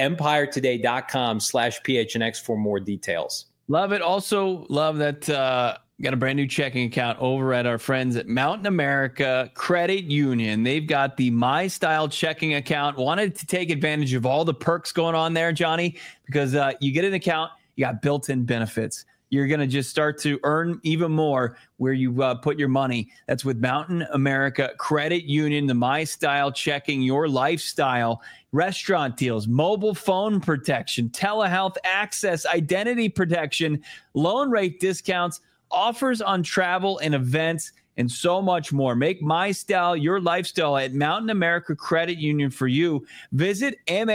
empiretoday.com/PHNX for more details. Love it. Also love that got a brand new checking account over at our friends at Mountain America Credit Union. They've got the My Style checking account. Wanted to take advantage of all the perks going on there, Johnny, because you get an account, you got built-in benefits. You're going to just start to earn even more where you put your money. That's with Mountain America Credit Union, the My Style checking, your lifestyle, restaurant deals, mobile phone protection, telehealth access, identity protection, loan rate discounts, offers on travel and events, and so much more. Make My Style your lifestyle at Mountain America Credit Union for you. Visit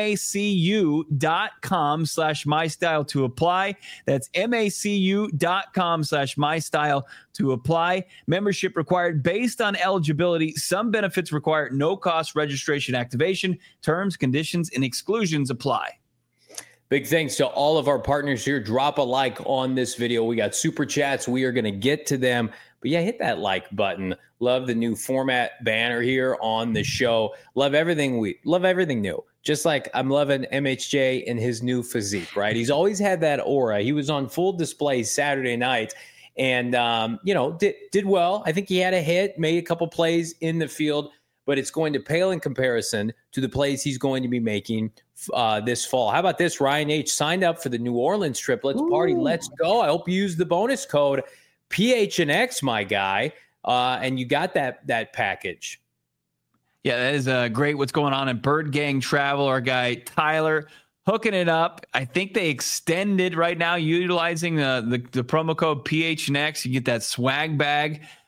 macu.com/mystyle to apply. That's macu.com/mystyle to apply. Membership required based on eligibility. Some benefits require no cost registration activation. Terms, conditions, and exclusions apply. Big thanks to all of our partners here. Drop a like on this video. We got super chats. We are going to get to them. But yeah, hit that like button. Love the new format banner here on the show. Love everything new. Just like I'm loving MHJ and his new physique, right? He's always had that aura. He was on full display Saturday night and, did well. I think he had a hit, made a couple plays in the field, but it's going to pale in comparison to the plays he's going to be making this fall. How about this? Ryan H. signed up for the New Orleans trip. Let's party. Let's go. I hope you use the bonus code PHNX, my guy, and you got that package. Yeah, that is great. What's going on at Bird Gang Travel? Our guy Tyler hooking it up. I think they extended right now, utilizing the promo code PHNX. You get that swag bag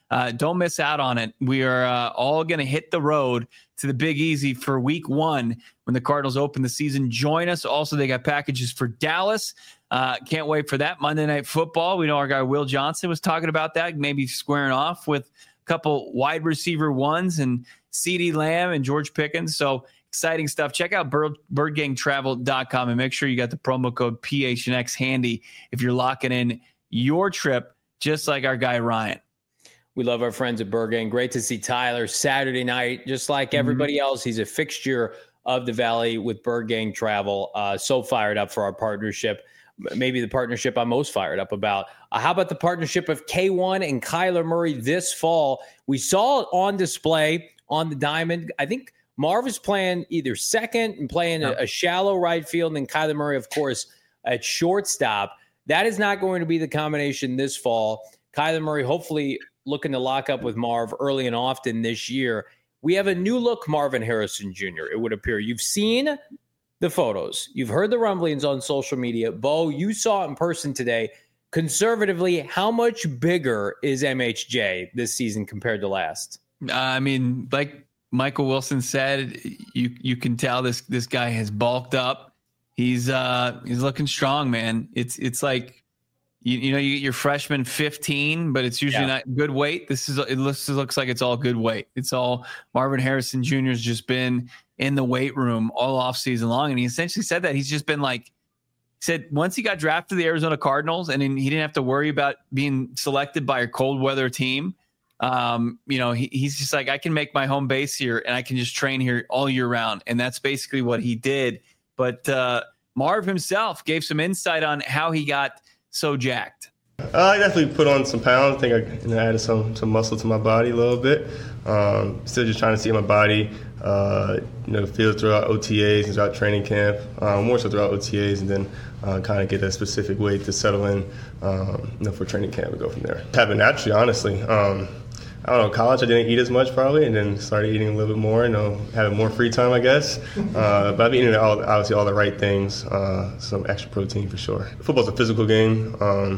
Don't miss out on it. We are all going to hit the road to the Big Easy for week 1 when the Cardinals open the season. Join us. Also, they got packages for Dallas. Can't wait for that. Monday Night Football. We know our guy Will Johnson was talking about that, maybe squaring off with a couple wide receiver ones and CeeDee Lamb and George Pickens. So exciting stuff. Check out birdgangtravel.com and make sure you got the promo code PHNX handy if you're locking in your trip, just like our guy Ryan. We love our friends at Bird Gang. Great to see Tyler Saturday night. Just like everybody else, he's a fixture of the Valley with Bird Gang Travel. So fired up for our partnership. Maybe the partnership I'm most fired up about. How about the partnership of K1 and Kyler Murray this fall? We saw it on display on the diamond. I think Marv is playing either second and playing a shallow right field, and then Kyler Murray, of course, at shortstop. That is not going to be the combination this fall. Kyler Murray hopefully looking to lock up with Marv early and often this year. We have a new look Marvin Harrison Jr., it would appear. You've seen the photos. You've heard the rumblings on social media. Bo, you saw it in person today. Conservatively, how much bigger is MHJ this season compared to last? I mean, like Michael Wilson said, you can tell this guy has bulked up. He's looking strong, man. It's like, you know, you get your freshman 15, but it's usually not good weight. It looks like it's all good weight. It's all Marvin Harrison Jr. has just been in the weight room all off season long. And he essentially said that he's just been said once he got drafted to the Arizona Cardinals and he didn't have to worry about being selected by a cold weather team. You know, he's just like, I can make my home base here and I can just train here all year round. And that's basically what he did. But Marv himself gave some insight on how he got so jacked. I definitely put on some pounds. I think I added some muscle to my body a little bit. Still just trying to see my body, feel throughout OTAs and throughout training camp, more so throughout OTAs, and then kind of get a specific weight to settle in, for training camp and go from there. Happened naturally, honestly. I don't know, college I didn't eat as much probably, and then started eating a little bit more, having more free time, I guess. But I've been eating obviously all the right things, some extra protein for sure. Football's a physical game.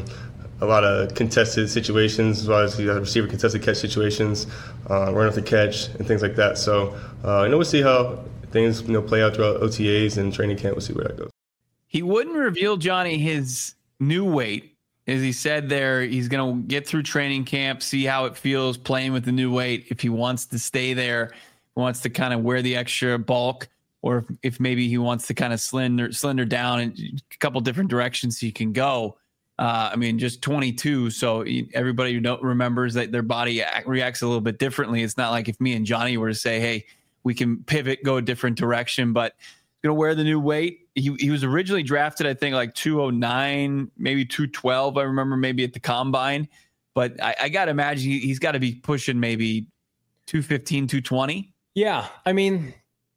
A lot of contested situations, as well as receiver contested catch situations, run off the catch, and things like that. So, we'll see how things play out throughout OTAs and training camp. We'll see where that goes. He wouldn't reveal, Johnny, his new weight. As he said there, he's going to get through training camp, see how it feels playing with the new weight. If he wants to stay there, wants to kind of wear the extra bulk, or if maybe he wants to kind of slender down in a couple different directions he can go. Just 22. So everybody remembers that their body reacts a little bit differently. It's not like if me and Johnny were to say, hey, we can pivot, go a different direction, but going to wear the new weight. He was originally drafted, I think, like 209, maybe 212. I remember maybe at the combine, but I got to imagine he's got to be pushing maybe 215, 220. Yeah. I mean,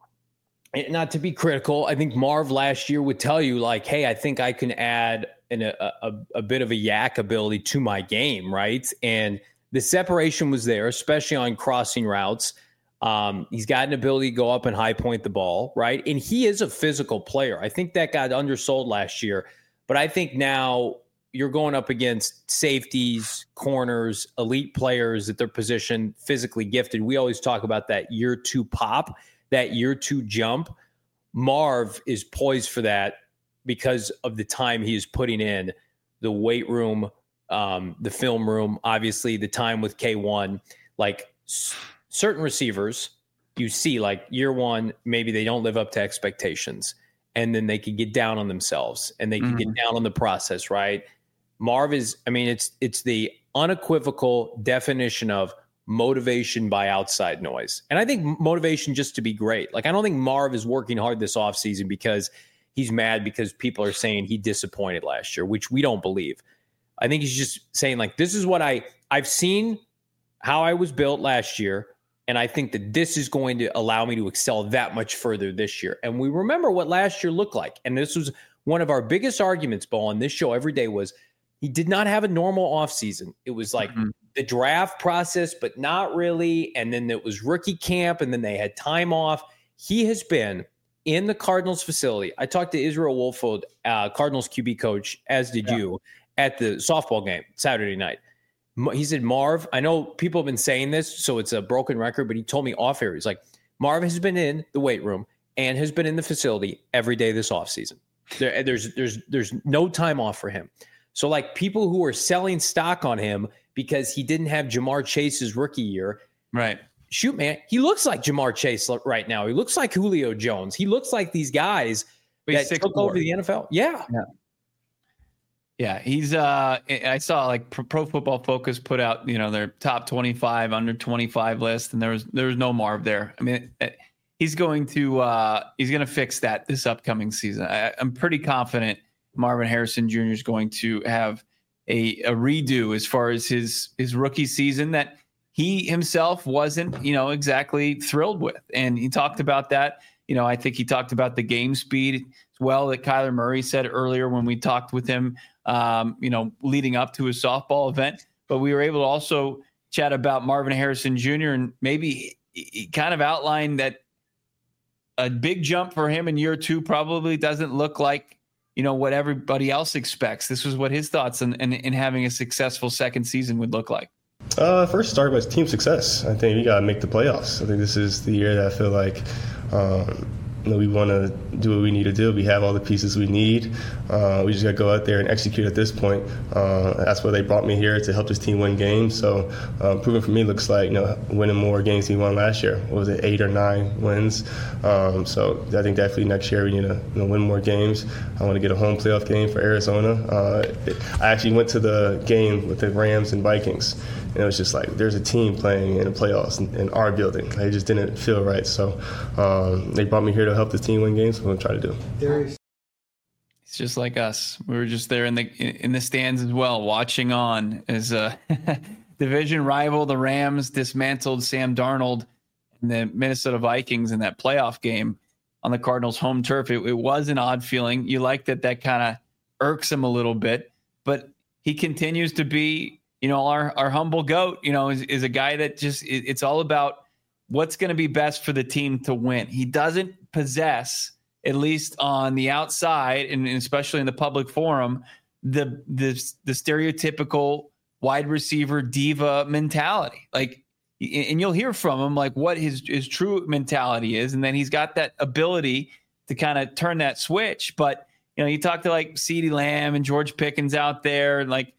not to be critical, I think Marv last year would tell you like, hey, I think I can add a bit of a yak ability to my game. Right. And the separation was there, especially on crossing routes. He's got an ability to go up and high point the ball, right? And he is a physical player. I think that got undersold last year, but I think now you're going up against safeties, corners, elite players at their position, physically gifted. We always talk about that year 2 pop, that year 2 jump. Marv is poised for that because of the time he is putting in, the weight room, the film room, obviously the time with K1, certain receivers you see like year 1, maybe they don't live up to expectations and then they can get down on themselves and they can get down on the process, right? Marv is, it's the unequivocal definition of motivation by outside noise. And I think motivation just to be great. Like, I don't think Marv is working hard this offseason because he's mad because people are saying he disappointed last year, which we don't believe. I think he's just saying like, this is what I've seen how I was built last year. And I think that this is going to allow me to excel that much further this year. And we remember what last year looked like. And this was one of our biggest arguments, Bo, on this show every day was he did not have a normal offseason. It was like the draft process, but not really. And then it was rookie camp, and then they had time off. He has been in the Cardinals facility. I talked to Israel Wolfold, Cardinals QB coach, as did you, at the softball game Saturday night. He said, Marv, I know people have been saying this, so it's a broken record, but he told me off air. He's like, Marv has been in the weight room and has been in the facility every day this offseason. There's no time off for him. So like people who are selling stock on him because he didn't have Jamar Chase's rookie year. Right. Shoot, man, he looks like Jamar Chase right now. He looks like Julio Jones. He looks like these guys that took over the NFL. Yeah. Yeah, he's I saw like Pro Football Focus put out, their top 25, under 25 list, and there was no Marv there. I mean, he's going to fix that this upcoming season. I'm pretty confident Marvin Harrison Jr. is going to have a redo as far as his rookie season that he himself wasn't, exactly thrilled with. And he talked about that. I think he talked about the game speed as well that Kyler Murray said earlier when we talked with him, leading up to his softball event. But we were able to also chat about Marvin Harrison Jr. and maybe he kind of outlined that a big jump for him in year 2 probably doesn't look like, what everybody else expects. This was what his thoughts in having a successful second season would look like. First start was team success. I think we got to make the playoffs. I think this is the year that I feel like we want to do what we need to do. We have all the pieces we need. We just got to go out there and execute at this point. That's why they brought me here, to help this team win games. So improving for me looks like winning more games than we won last year. What was it, 8 or 9 wins? So I think definitely next year we need to win more games. I want to get a home playoff game for Arizona. I actually went to the game with the Rams and Vikings. And it was just like, there's a team playing in the playoffs in our building. It just didn't feel right. So they brought me here to help the team win games. So I'm going to try to do. It's just like us. We were just there in the stands as well, watching on as a division rival, the Rams, dismantled Sam Darnold and the Minnesota Vikings in that playoff game on the Cardinals' home turf. It was an odd feeling. You like that kind of irks him a little bit, but he continues to be, our humble GOAT, is a guy that just, it's all about what's going to be best for the team to win. He doesn't possess, at least on the outside, and especially in the public forum, the stereotypical wide receiver diva mentality. Like, and you'll hear from him like what his true mentality is, and then he's got that ability to kind of turn that switch. But you talk to like CeeDee Lamb and George Pickens out there, and like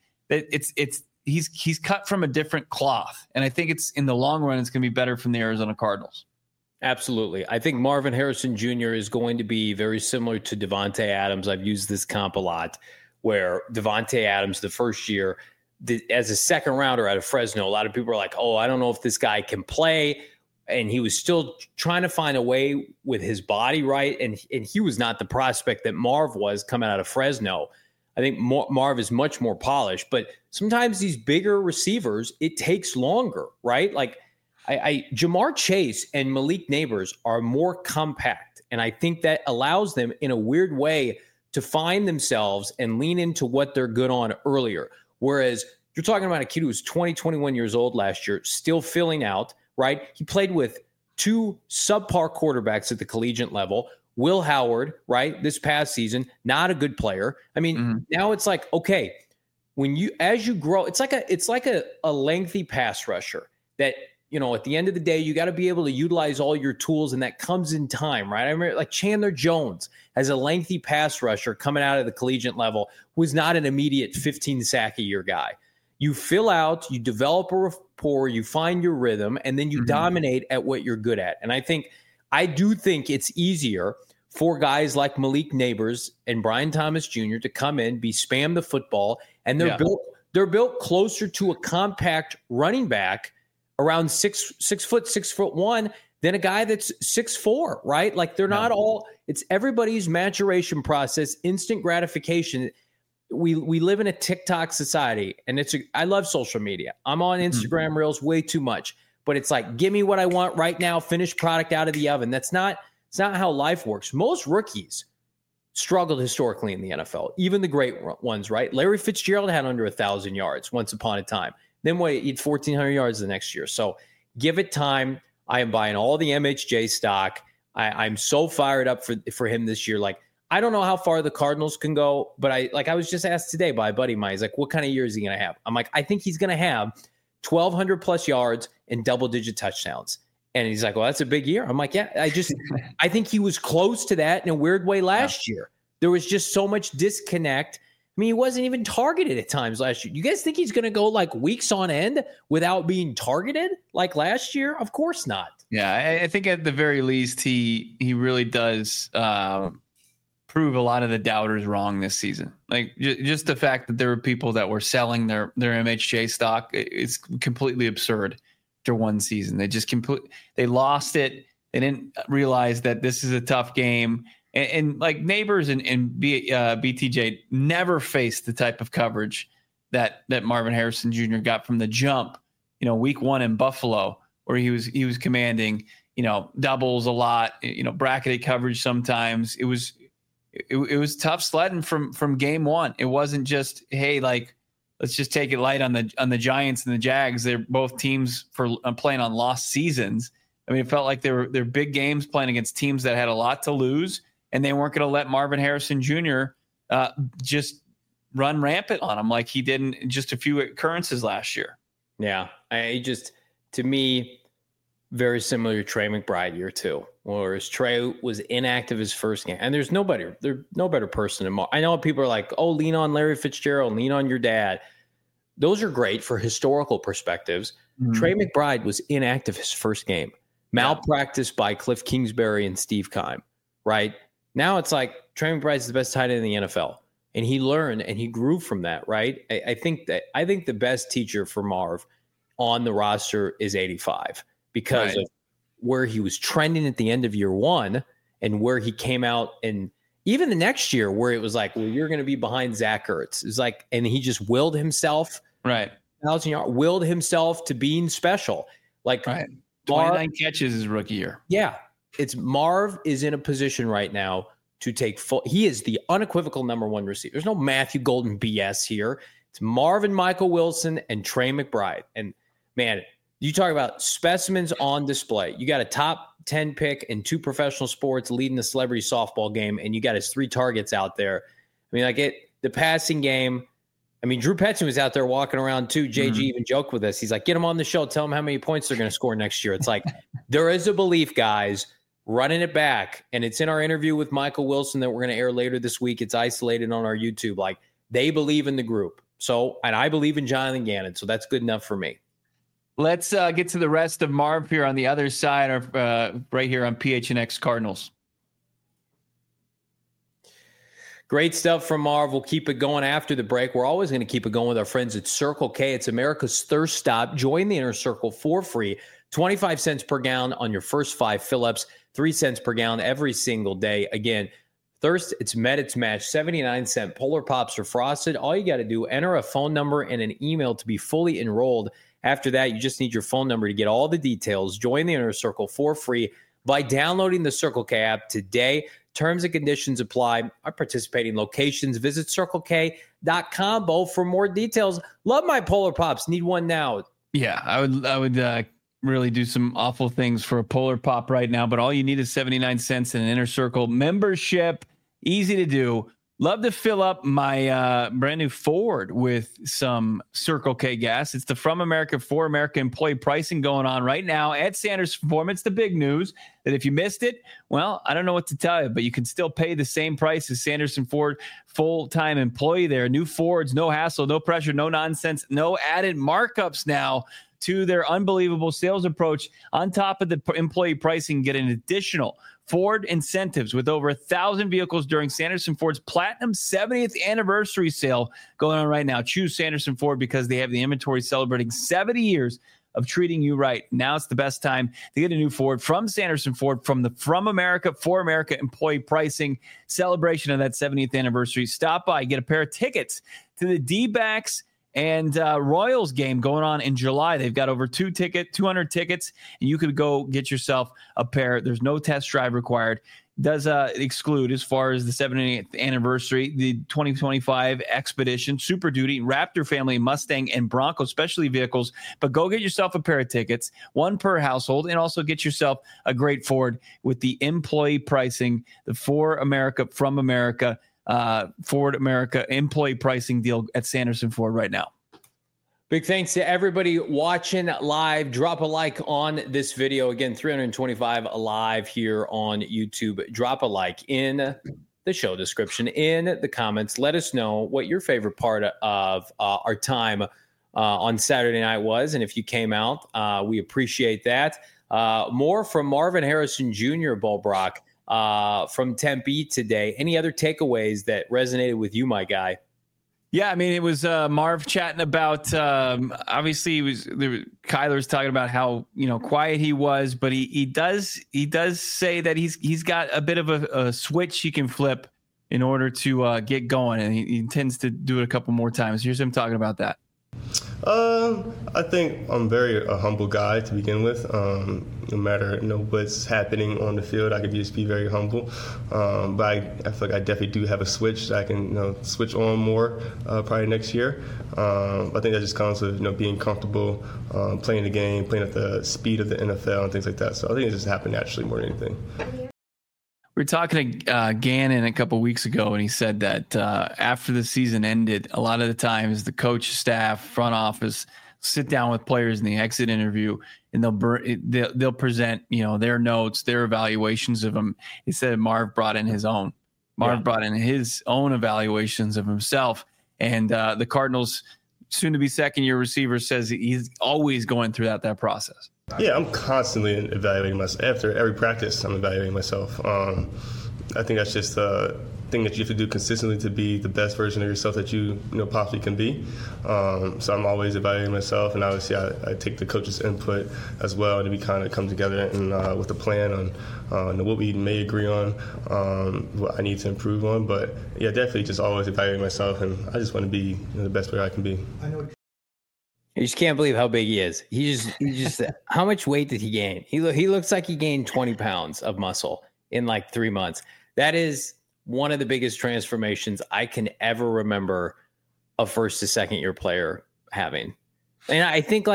he's cut from a different cloth, and I think it's in the long run it's going to be better from the Arizona Cardinals. Absolutely. I think Marvin Harrison Jr. is going to be very similar to Davante Adams. I've used this comp a lot, where Davante Adams, the first year, as a second rounder out of Fresno, a lot of people are like, oh, I don't know if this guy can play. And he was still trying to find a way with his body, right? And he was not the prospect that Marv was coming out of Fresno. I think Marv is much more polished, but sometimes these bigger receivers, it takes longer, right? Like Jamar Chase and Malik Neighbors are more compact, and I think that allows them in a weird way to find themselves and lean into what they're good on earlier. Whereas you're talking about a kid who was 21 years old last year, still filling out, right? He played with 2 subpar quarterbacks at the collegiate level. Will Howard, right, this past season, not a good player. I mean, now it's like, okay, as you grow, it's like a lengthy pass rusher that, at the end of the day, you got to be able to utilize all your tools, and that comes in time, right? I remember like Chandler Jones as a lengthy pass rusher coming out of the collegiate level was not an immediate 15 sack a year guy. You fill out, you develop a rapport, you find your rhythm, and then you dominate at what you're good at. And I do think it's easier for guys like Malik Neighbors and Brian Thomas Jr. to come in, spam the football, and they're built closer to a compact running back around 6'1" than a guy that's 6'4", right? Like they're not all. It's everybody's maturation process, instant gratification. We live in a TikTok society, and I love social media. I'm on Instagram Reels way too much. But it's like, give me what I want right now, finished product out of the oven. It's not how life works. Most rookies struggled historically in the NFL, even the great ones, right? Larry Fitzgerald had under 1,000 yards once upon a time. Then he had 1,400 yards the next year. So give it time. I am buying all the MHJ stock. I'm so fired up for him this year. Like, I don't know how far the Cardinals can go, but I was just asked today by a buddy of mine. He's like, what kind of year is he going to have? I'm like, I think he's going to have 1,200 plus yards and double-digit touchdowns. And he's like, well, that's a big year. I'm like, yeah, I think he was close to that in a weird way last year. There was just so much disconnect. I mean, he wasn't even targeted at times last year. You guys think he's going to go like weeks on end without being targeted like last year? Of course not. Yeah, I think at the very least, he really does prove a lot of the doubters wrong this season. Like just the fact that there were people that were selling their MHJ stock, it's completely absurd after one season. They lost it. They didn't realize that this is a tough game. And like Neighbors and BTJ never faced the type of coverage that Marvin Harrison Jr. got from the jump, week 1 in Buffalo, where he was commanding, doubles a lot, bracketed coverage sometimes. It was tough sledding from game 1. It wasn't just, hey, like, let's just take it light on the Giants and the Jags. They're both teams playing on lost seasons. I mean, it felt like they're big games playing against teams that had a lot to lose, and they weren't going to let Marvin Harrison Jr. Just run rampant on him like he did in just a few occurrences last year. Yeah, to me, very similar to Trey McBride year 2, whereas Trey was inactive his first game, and there's no better person than Marv. I know people are like, oh, lean on Larry Fitzgerald, lean on your dad. Those are great for historical perspectives. Mm-hmm. Trey McBride was inactive his first game, malpractice by Cliff Kingsbury and Steve Keim, right? Now it's like Trey McBride's the best tight end in the NFL, and he learned and he grew from that, right? I think the best teacher for Marv on the roster is 85 because of where he was trending at the end of year 1 and where he came out, and even the next year where it was like, well, you're going to be behind Zach Ertz. It's like, and he just willed himself, willed himself to being special. Like 29 catches his rookie year. Yeah. It's Marv is in a position right now to take he is the unequivocal number 1 receiver. There's no Matthew Golden BS here. It's Marv and Michael Wilson and Trey McBride. And man, you talk about specimens on display. You got a top 10 pick in 2 professional sports leading the celebrity softball game, and you got his 3 targets out there. I mean, the passing game. I mean, Drew Petzing was out there walking around too. JG even joked with us. He's like, get him on the show. Tell him how many points they're going to score next year. It's like, there is a belief, guys, running it back. And it's in our interview with Michael Wilson that we're going to air later this week. It's isolated on our YouTube. Like, they believe in the group. So, and I believe in Jonathan Gannon. So that's good enough for me. Let's get to the rest of Marv here on the other side of right here on PHNX Cardinals. Great stuff from Marv. We'll keep it going after the break. We're always going to keep it going with our friends at Circle K. It's America's thirst stop. Join the Inner Circle for free. 25 cents per gallon on your first 5 fill-ups. 3 cents per gallon every single day. Again, thirst, it's met, it's matched. 79-cent Polar Pops are frosted. All you got to do, enter a phone number and an email to be fully enrolled. After that, you just need your phone number to get all the details. Join the Inner Circle for free by downloading the Circle K app today. Terms and conditions apply. Our participating locations. Visit CircleK.com, Bo, for more details. Love my Polar Pops. Need one now. Yeah, I would really do some awful things for a Polar Pop right now, but all you need is 79 cents and an Inner Circle membership. Easy to do. Love to fill up my brand new Ford with some Circle K gas. It's the From America for America employee pricing going on right now at Sanderson Ford. It's the big news that if you missed it, well, I don't know what to tell you, but you can still pay the same price as Sanderson Ford full-time employee there. New Fords, no hassle, no pressure, no nonsense, no added markups now to their unbelievable sales approach. On top of the employee pricing, get an additional Ford incentives with over 1,000 vehicles during Sanderson Ford's Platinum 70th anniversary sale going on right now. Choose Sanderson Ford because they have the inventory celebrating 70 years of treating you right. Now it's the best time to get a new Ford from Sanderson Ford from the From America for America employee pricing celebration of that 70th anniversary. Stop by, get a pair of tickets to the D-backs and Royals game going on in July. They've got over 200 tickets, and you could go get yourself a pair. There's no test drive required. does exclude, as far as the 70th anniversary, the 2025 Expedition, Super Duty, Raptor family, Mustang, and Bronco specialty vehicles. But go get yourself a pair of tickets, one per household, and also get yourself a great Ford with the employee pricing, the For America, from America, Ford America employee pricing deal at Sanderson Ford right now. Big thanks to everybody watching live. Drop a like on this video. Again, 325 live here on YouTube. Drop a like in the show description, in the comments. Let us know what your favorite part of our time on Saturday night was. And if you came out, we appreciate that. More from Marvin Harrison Jr., Bullbrock, from Tempe today. Any other takeaways that resonated with you, my guy? Yeah, I mean, it was Marv chatting about, obviously, Kyler's talking about how, quiet he was, but he does say that he's got a bit of a switch he can flip in order to get going, and he intends to do it a couple more times. Here's him talking about that. I think I'm very a humble guy to begin with. No matter what's happening on the field, I could just be very humble. But I feel like I definitely do have a switch that I can switch on more probably next year. I think that just comes with being comfortable playing the game, playing at the speed of the NFL and things like that. So I think it just happened naturally more than anything. We were talking to Gannon a couple of weeks ago, and he said that after the season ended, a lot of the times the coach, staff, front office sit down with players in the exit interview, and they'll present their notes, their evaluations of them. He said Marv brought in his own. Brought in his own evaluations of himself, and the Cardinals' soon-to-be second-year receiver says he's always going through that process. Yeah, I'm constantly evaluating myself. After every practice, I'm evaluating myself. I think that's just a thing that you have to do consistently to be the best version of yourself that you possibly can be. So I'm always evaluating myself, and obviously I take the coach's input as well, and we kind of come together and with a plan on what we may agree on, what I need to improve on. But yeah, definitely just always evaluating myself, and I just want to be the best player I can be. I just can't believe how big he is. He just how much weight did he gain? He looks like he gained 20 pounds of muscle in like 3 months. That is one of the biggest transformations I can ever remember a first to second year player having. And I think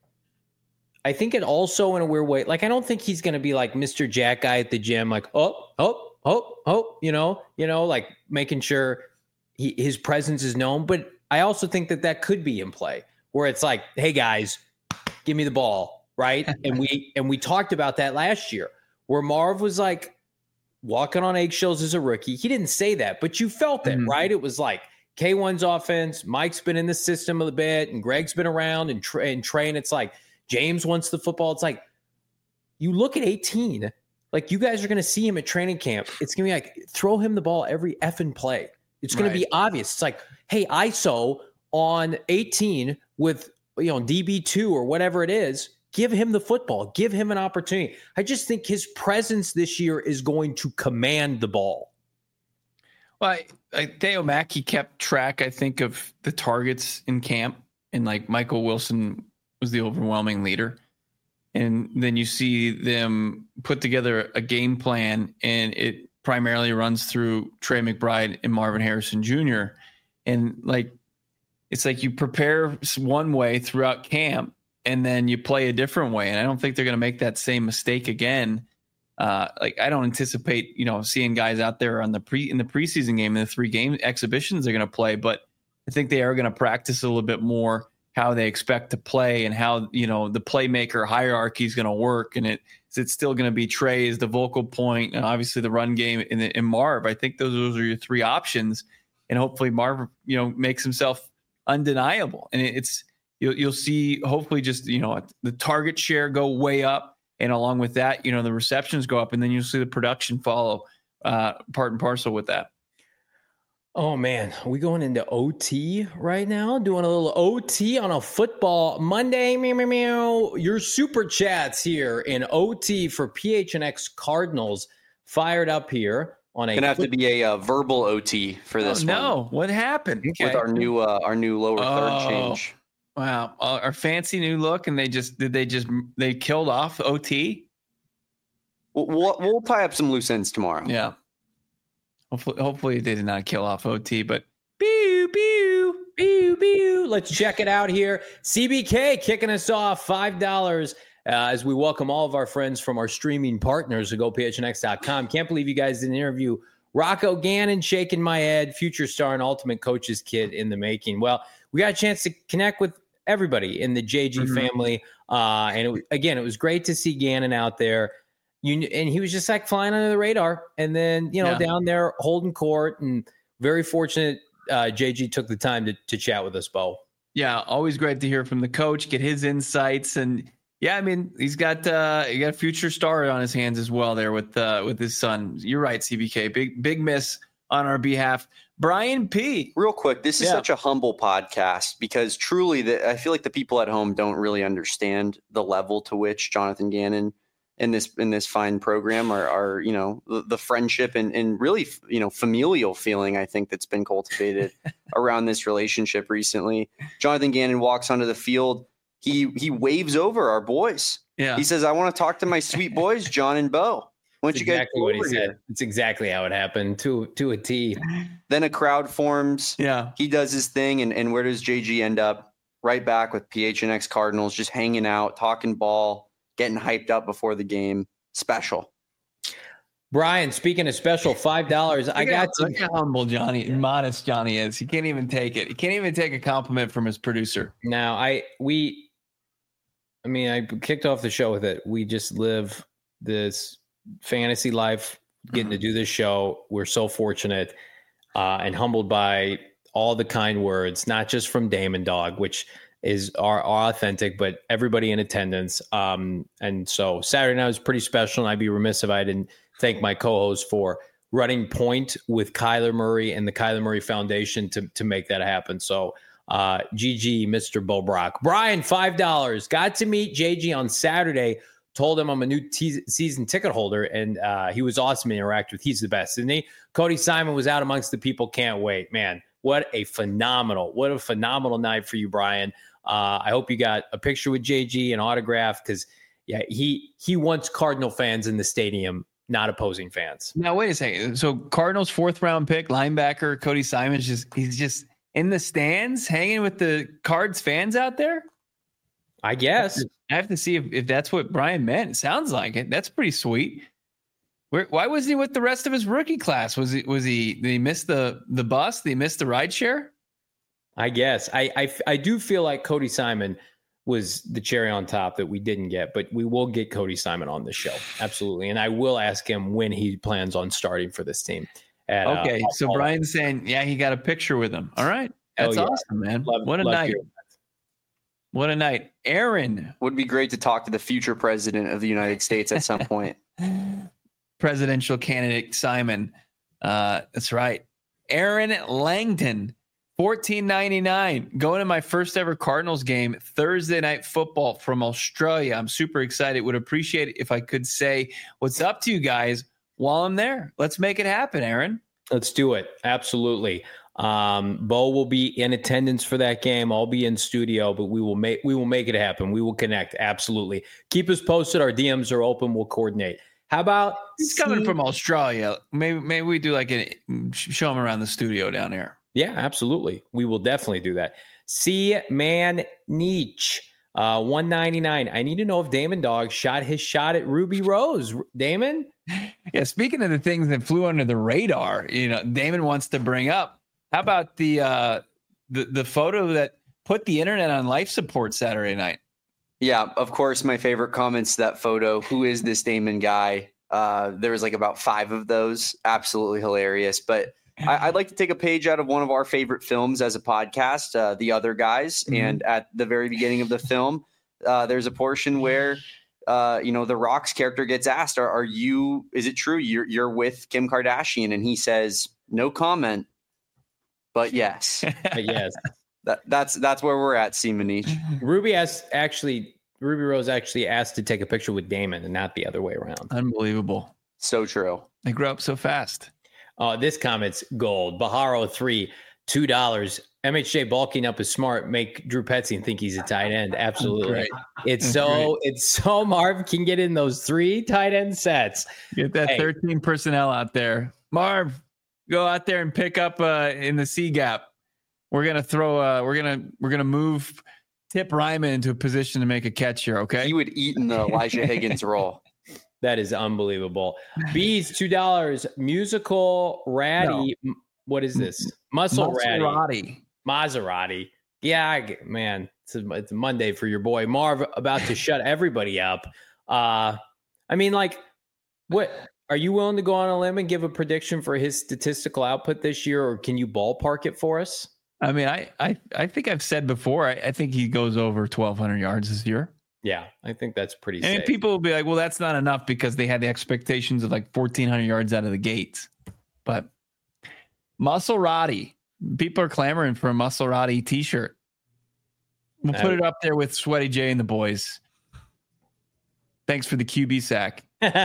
it also in a weird way, like, I don't think he's going to be like Mr. Jack guy at the gym, like, like making sure his presence is known. But I also think that could be in play, where it's like, hey guys, give me the ball, right? And we talked about that last year, where Marv was like walking on eggshells as a rookie. He didn't say that, but you felt it, right? It was like K1's offense, Mike's been in the system a bit, and Greg's been around, and Trey, and it's like James wants the football. It's like, you look at 18, like, you guys are going to see him at training camp. It's going to be like, throw him the ball every effing play. It's going to be obvious. It's like, hey, ISO on 18 with DB2 or whatever it is, give him the football, give him an opportunity. I just think his presence this year is going to command the ball. Well, Theo Mackey kept track, I think, of the targets in camp, and like Michael Wilson was the overwhelming leader. And then you see them put together a game plan, and it primarily runs through Trey McBride and Marvin Harrison Jr. And like, it's like you prepare one way throughout camp, and then you play a different way. And I don't think they're going to make that same mistake again. I don't anticipate, seeing guys out there in the preseason game, in the 3 game exhibitions they're going to play, but I think they are going to practice a little bit more how they expect to play, and how, the playmaker hierarchy is going to work. And it's still going to be Trey as the vocal point, and obviously the run game in Marv. I think those are your 3 options, and hopefully Marv, makes himself undeniable. And you'll see, hopefully, just, the target share go way up. And along with that, the receptions go up, and then you'll see the production follow part and parcel with that. Oh, man. Are we going into OT right now? Doing a little OT on a football Monday. Meow, meow, meow. Your super chats here in OT for PHNX Cardinals fired up here on a. Going to have to be a verbal OT for this one. No, what happened? Okay. With our new lower third change. Wow, our fancy new look, and they killed off OT. We'll tie up some loose ends tomorrow. Yeah. Hopefully they did not kill off OT, but pew, pew, pew, pew. Let's check it out here. CBK kicking us off, $5 as we welcome all of our friends from our streaming partners to GoPHNX.com. Can't believe you guys didn't interview Rocco Gannon, shaking my head, future star and ultimate coach's kid in the making. Well, we got a chance to connect with everybody in the JG family. And it was great to see Gannon out there. And he was just like flying under the radar. And then, down there holding court, and very fortunate JG took the time to chat with us, Bo. Yeah, always great to hear from the coach, get his insights. And yeah, I mean, he's got a future star on his hands as well there with his son. You're right, CBK. Big miss on our behalf. Brian P. Real quick, this is such a humble podcast because truly I feel like the people at home don't really understand the level to which Jonathan Gannon in this fine program are the friendship and really, familial feeling, I think, that's been cultivated around this relationship recently. Jonathan Gannon walks onto the field. He waves over our boys. Yeah. He says, "I want to talk to my sweet boys, John and Bo. Why don't you guys exactly what he said. It's exactly how it happened to a T." Then a crowd forms. Yeah. He does his thing. And where does JG end up? Right back with PHNX Cardinals, just hanging out, talking ball, getting hyped up before the game. Special. Brian, speaking of special, $5. Look how humble modest Johnny is. He can't even take it. He can't even take a compliment from his producer. Now, I kicked off the show with it. We just live this fantasy life, getting to do this show. We're so fortunate and humbled by all the kind words, not just from Damon Dog, which are authentic, but everybody in attendance. And so Saturday night was pretty special, and I'd be remiss if I didn't thank my co-host for running point with Kyler Murray and the Kyler Murray Foundation to make that happen. So GG, Mr. Bo Brock. Brian, $5. Got to meet JG on Saturday. Told him I'm a new season ticket holder, and he was awesome to interact with. He's the best, isn't he? Cody Simon was out amongst the people. Can't wait, man. What a phenomenal night for you, Brian. I hope you got a picture with JG, an autograph, because he wants Cardinal fans in the stadium, not opposing fans. Now wait a second. So Cardinals 4th round pick linebacker Cody Simon he's just in the stands hanging with the Cards fans out there. I guess I have to see if that's what Brian meant. It sounds like it. That's pretty sweet. Why was he with the rest of his rookie class? Did he miss the bus? Did he miss the ride share? I guess I do feel like Cody Simon was the cherry on top that we didn't get, but we will get Cody Simon on the show. Absolutely. And I will ask him when he plans on starting for this team. So Brian's saying, he got a picture with him. All right. That's awesome, man. What a night. What a night. Aaron. Would be great to talk to the future president of the United States at some point. Presidential candidate Simon. That's right. Aaron Langton, $14.99. Going to my first ever Cardinals game, Thursday Night Football from Australia. I'm super excited. Would appreciate it if I could say what's up to you guys while I'm there. Let's make it happen, Aaron. Let's do it. Absolutely. Bo will be in attendance for that game. I'll be in studio, but we will make it happen. We will connect. Absolutely. Keep us posted. Our DMs are open. We'll coordinate. How about he's coming from Australia? Maybe we do show him around the studio down here. Yeah, absolutely. We will definitely do that. C-Man Nietzsche, $199. I need to know if Damon Dog shot his shot at Ruby Rose. Damon? Yeah, speaking of the things that flew under the radar, Damon wants to bring up. How about the photo that put the internet on life support Saturday night? Yeah, of course, my favorite comments to that photo. Who is this Damon guy? There was about 5 of those. Absolutely hilarious. But I'd like to take a page out of one of our favorite films as a podcast, The Other Guys. Mm-hmm. And at the very beginning of the film, there's a portion where, The Rock's character gets asked, is it true you're with Kim Kardashian? And he says, no comment, but yes. Yes. That's where we're at, Seamanich. Ruby Rose actually asked to take a picture with Damon and not the other way around. Unbelievable. So true. They grew up so fast. This comment's gold. Baharo 3, $2. MHJ bulking up is smart. Make Drew Petzing think he's a tight end. Absolutely. Great. It's so Marv can get in those 3 tight end sets. Get that 13 personnel out there. Marv, go out there and pick up in the C gap. We're gonna throw. We're gonna move Tip Ryman into a position to make a catch here. Okay. He would eat in the Elijah Higgins role. That is unbelievable. Bees, $2. Musical Ratty. No. What is this? Maserati. Yeah, man. It's a Monday for your boy Marv, about to shut everybody up. I mean, like, what are you willing to go on a limb and give a prediction for his statistical output this year, or can you ballpark it for us? I mean, I think I've said before, I think he goes over 1,200 yards this year. Yeah, I think that's pretty safe. And people will be like, well, that's not enough because they had the expectations of like 1,400 yards out of the gates. But Maserati, people are clamoring for a Maserati t-shirt. We'll put it up there with Sweaty J and the boys. Thanks for the QB sack.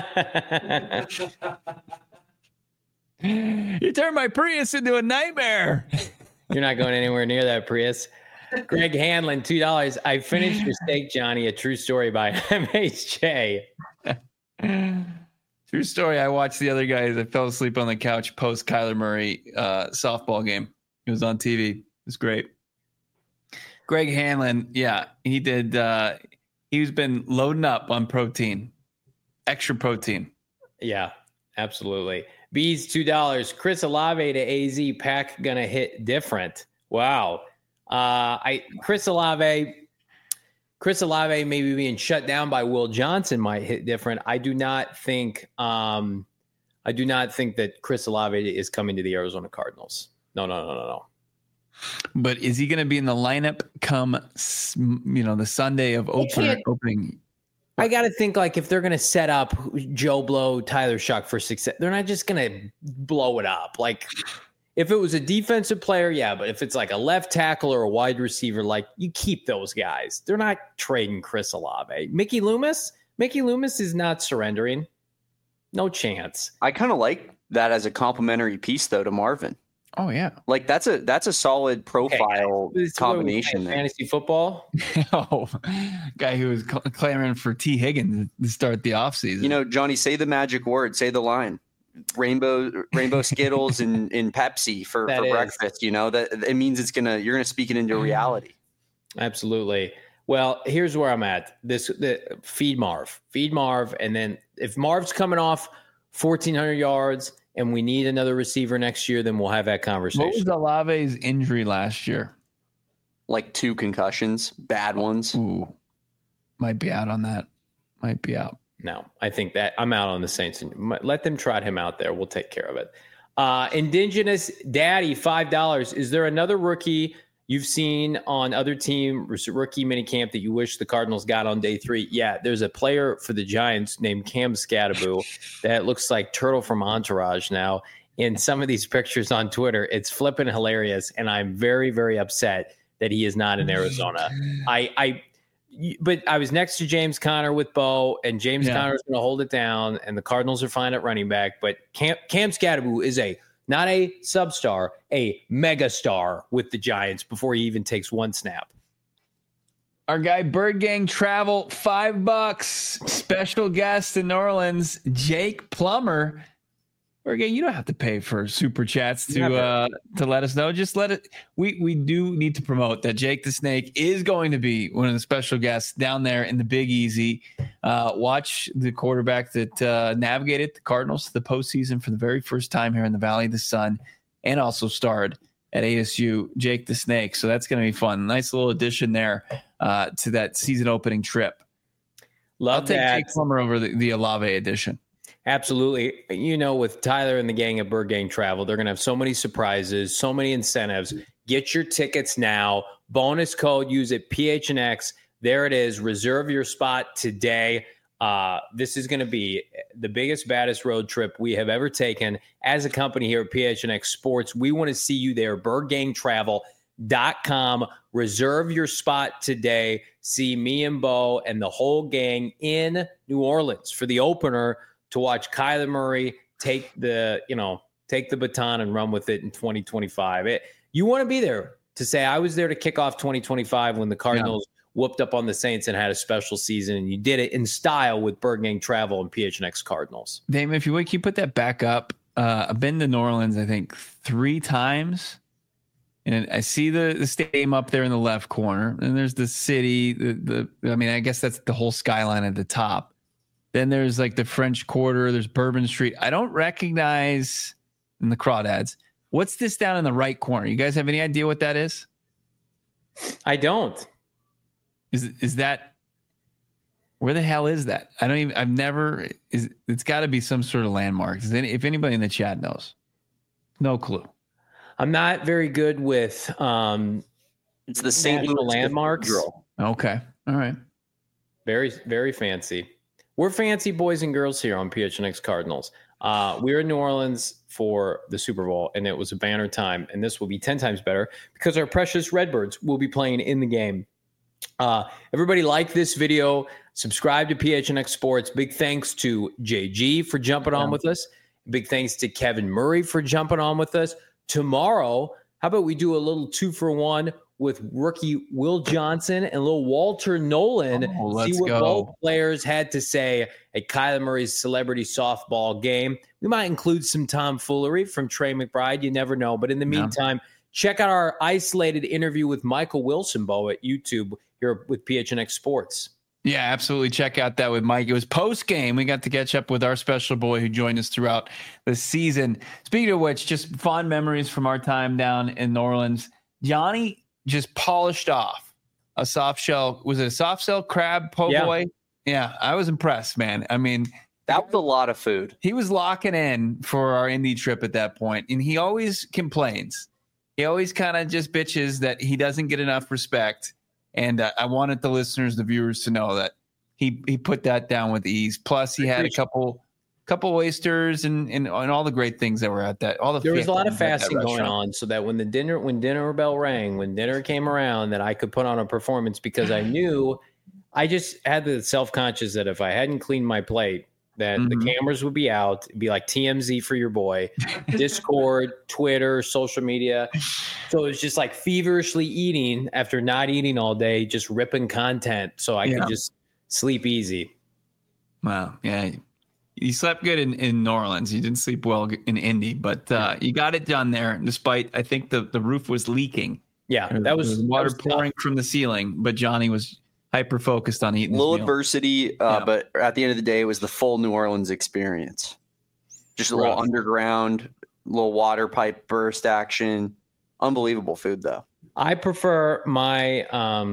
You turned my Prius into a nightmare. You're not going anywhere near that Prius. Greg Hanlon, $2. I finished your steak, Johnny. A true story by MHJ. True story. I watched the other guys. I fell asleep on the couch post Kyler Murray softball game. It was on TV. It was great. Greg Hanlon, yeah, he did. He's been loading up on protein, extra protein. Yeah, absolutely. Bees, $2. Chris Olave to AZ. Pack gonna hit different. Wow. Chris Olave maybe being shut down by Will Johnson might hit different. I do not think that Chris Olave is coming to the Arizona Cardinals. No. But is he going to be in the lineup come, the Sunday of opening? I got to think, like, if they're going to set up Joe Blow, Tyler Shuck for success, they're not just going to blow it up. Like, if it was a defensive player, yeah, but if it's like a left tackle or a wide receiver, like, you keep those guys. They're not trading Chris Olave. Mickey Loomis is not surrendering. No chance. I kind of like that as a complimentary piece, though, to Marvin. Oh yeah, like that's a solid profile combination there. Fantasy football. Guy who was clamoring for T. Higgins to start the offseason. Johnny, say the magic word, say the line. Rainbow Skittles and Pepsi for breakfast. That it means you're gonna speak it into reality. Absolutely. Well, here's where I'm at. Feed Marv, and then if Marv's coming off 1,400 yards. And we need another receiver next year, then we'll have that conversation. What was Olave's injury last year? Like 2 concussions, bad ones. Ooh, might be out on that. Might be out. No, I think that I'm out on the Saints. Let them trot him out there. We'll take care of it. Indigenous Daddy, $5. Is there another rookie you've seen on other team rookie minicamp that you wish the Cardinals got on day 3? Yeah, there's a player for the Giants named Cam Scadaboo that looks like Turtle from Entourage now. In some of these pictures on Twitter, it's flipping hilarious, and I'm very, very upset that he is not in Arizona. But I was next to James Conner with Bo, and James Conner is going to hold it down, and the Cardinals are fine at running back. But Cam Scadaboo is not a substar, a megastar with the Giants before he even takes one snap. Our guy Bird Gang Travel, $5. Special guest in New Orleans, Jake Plummer. Bird Gang, you don't have to pay for super chats to let us know. Just let it. We do need to promote that Jake the Snake is going to be one of the special guests down there in the Big Easy. Watch the quarterback that navigated the Cardinals to the postseason for the very first time here in the Valley of the Sun, and also starred at ASU, Jake the Snake. So that's going to be fun. Nice little addition there to that season opening trip. I'll take Jake Plummer over the Olave edition. Absolutely. With Tyler and the gang at Bird Gang Travel, they're going to have so many surprises, so many incentives. Get your tickets now. Bonus code, use it, PHNX. There it is. Reserve your spot today. This is going to be the biggest, baddest road trip we have ever taken as a company here at PHNX Sports. We want to see you there. BirdGangTravel.com. Reserve your spot today. See me and Bo and the whole gang in New Orleans for the opener to watch Kyler Murray take the baton and run with it in 2025. You want to be there. to say I was there to kick off 2025 when the Cardinals whooped up on the Saints and had a special season, and you did it in style with Bird Gang Travel and PHNX Cardinals. Damon, if you would, can you put that back up? I've been to New Orleans, I think, 3 times. And I see the stadium up there in the left corner. And there's the city. I guess that's the whole skyline at the top. Then there's like the French Quarter. There's Bourbon Street. I don't recognize in the crawdads. What's this down in the right corner? You guys have any idea what that is? I don't. Is that, where the hell is that? It's got to be some sort of landmark. If anybody in the chat knows, no clue. I'm not very good with it's the St. Louis landmarks. Okay. All right. Very, very fancy. We're fancy boys and girls here on PHNX Cardinals. We were in New Orleans for the Super Bowl, and it was a banner time. And this will be 10 times better because our precious Redbirds will be playing in the game. Everybody like this video. Subscribe to PHNX Sports. Big thanks to JG for jumping on with us. Big thanks to Kevin Murray for jumping on with us. Tomorrow, how about we do a little 2-for-1 with rookie Will Johnson and little Walter Nolan? See what both players had to say at Kyler Murray's celebrity softball game. We might include some tomfoolery from Trey McBride. You never know. But in the meantime, check out our isolated interview with Michael Wilson-Bo at YouTube here with PHNX Sports. Yeah, absolutely. Check out that with Mike. It was post-game. We got to catch up with our special boy who joined us throughout the season. Speaking of which, just fond memories from our time down in New Orleans. Johnny just polished off a soft shell. Was it a soft shell crab po' boy? Yeah, I was impressed, man. I mean, that was a lot of food. He was locking in for our Indy trip at that point, and he always complains. He always kind of just bitches that he doesn't get enough respect. And I wanted the listeners, the viewers, to know that he put that down with ease. Plus, he had a couple oysters and all the great things that were at that. There was a lot of fasting going on, so that when dinner bell rang, when dinner came around, that I could put on a performance because I knew I just had the self-conscious that if I hadn't cleaned my plate, that the cameras would be out. It'd be like TMZ for your boy, Discord, Twitter, social media. So it was just like feverishly eating after not eating all day, just ripping content so I could just sleep easy. Wow. Yeah. You slept good in New Orleans. You didn't sleep well in Indy, but you got it done there despite, I think the roof was leaking. Yeah. There was water pouring from the ceiling, but Johnny was hyper focused on eating. A little adversity, but at the end of the day, it was the full New Orleans experience. Just a little underground, little water pipe burst action. Unbelievable food, though. I prefer my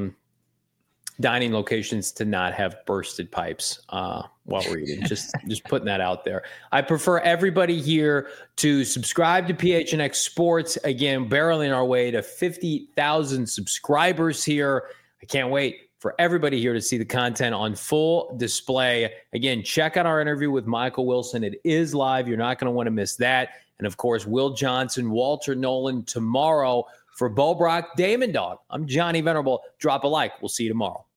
dining locations to not have bursted pipes while we're eating. Just putting that out there. I prefer everybody here to subscribe to PHNX Sports. Again, barreling our way to 50,000 subscribers here. I can't wait for everybody here to see the content on full display. Again, check out our interview with Michael Wilson. It is live. You're not going to want to miss that. And, of course, Will Johnson, Walter Nolan tomorrow. For Bo Brock, Damon Dog, I'm Johnny Venerable. Drop a like. We'll see you tomorrow.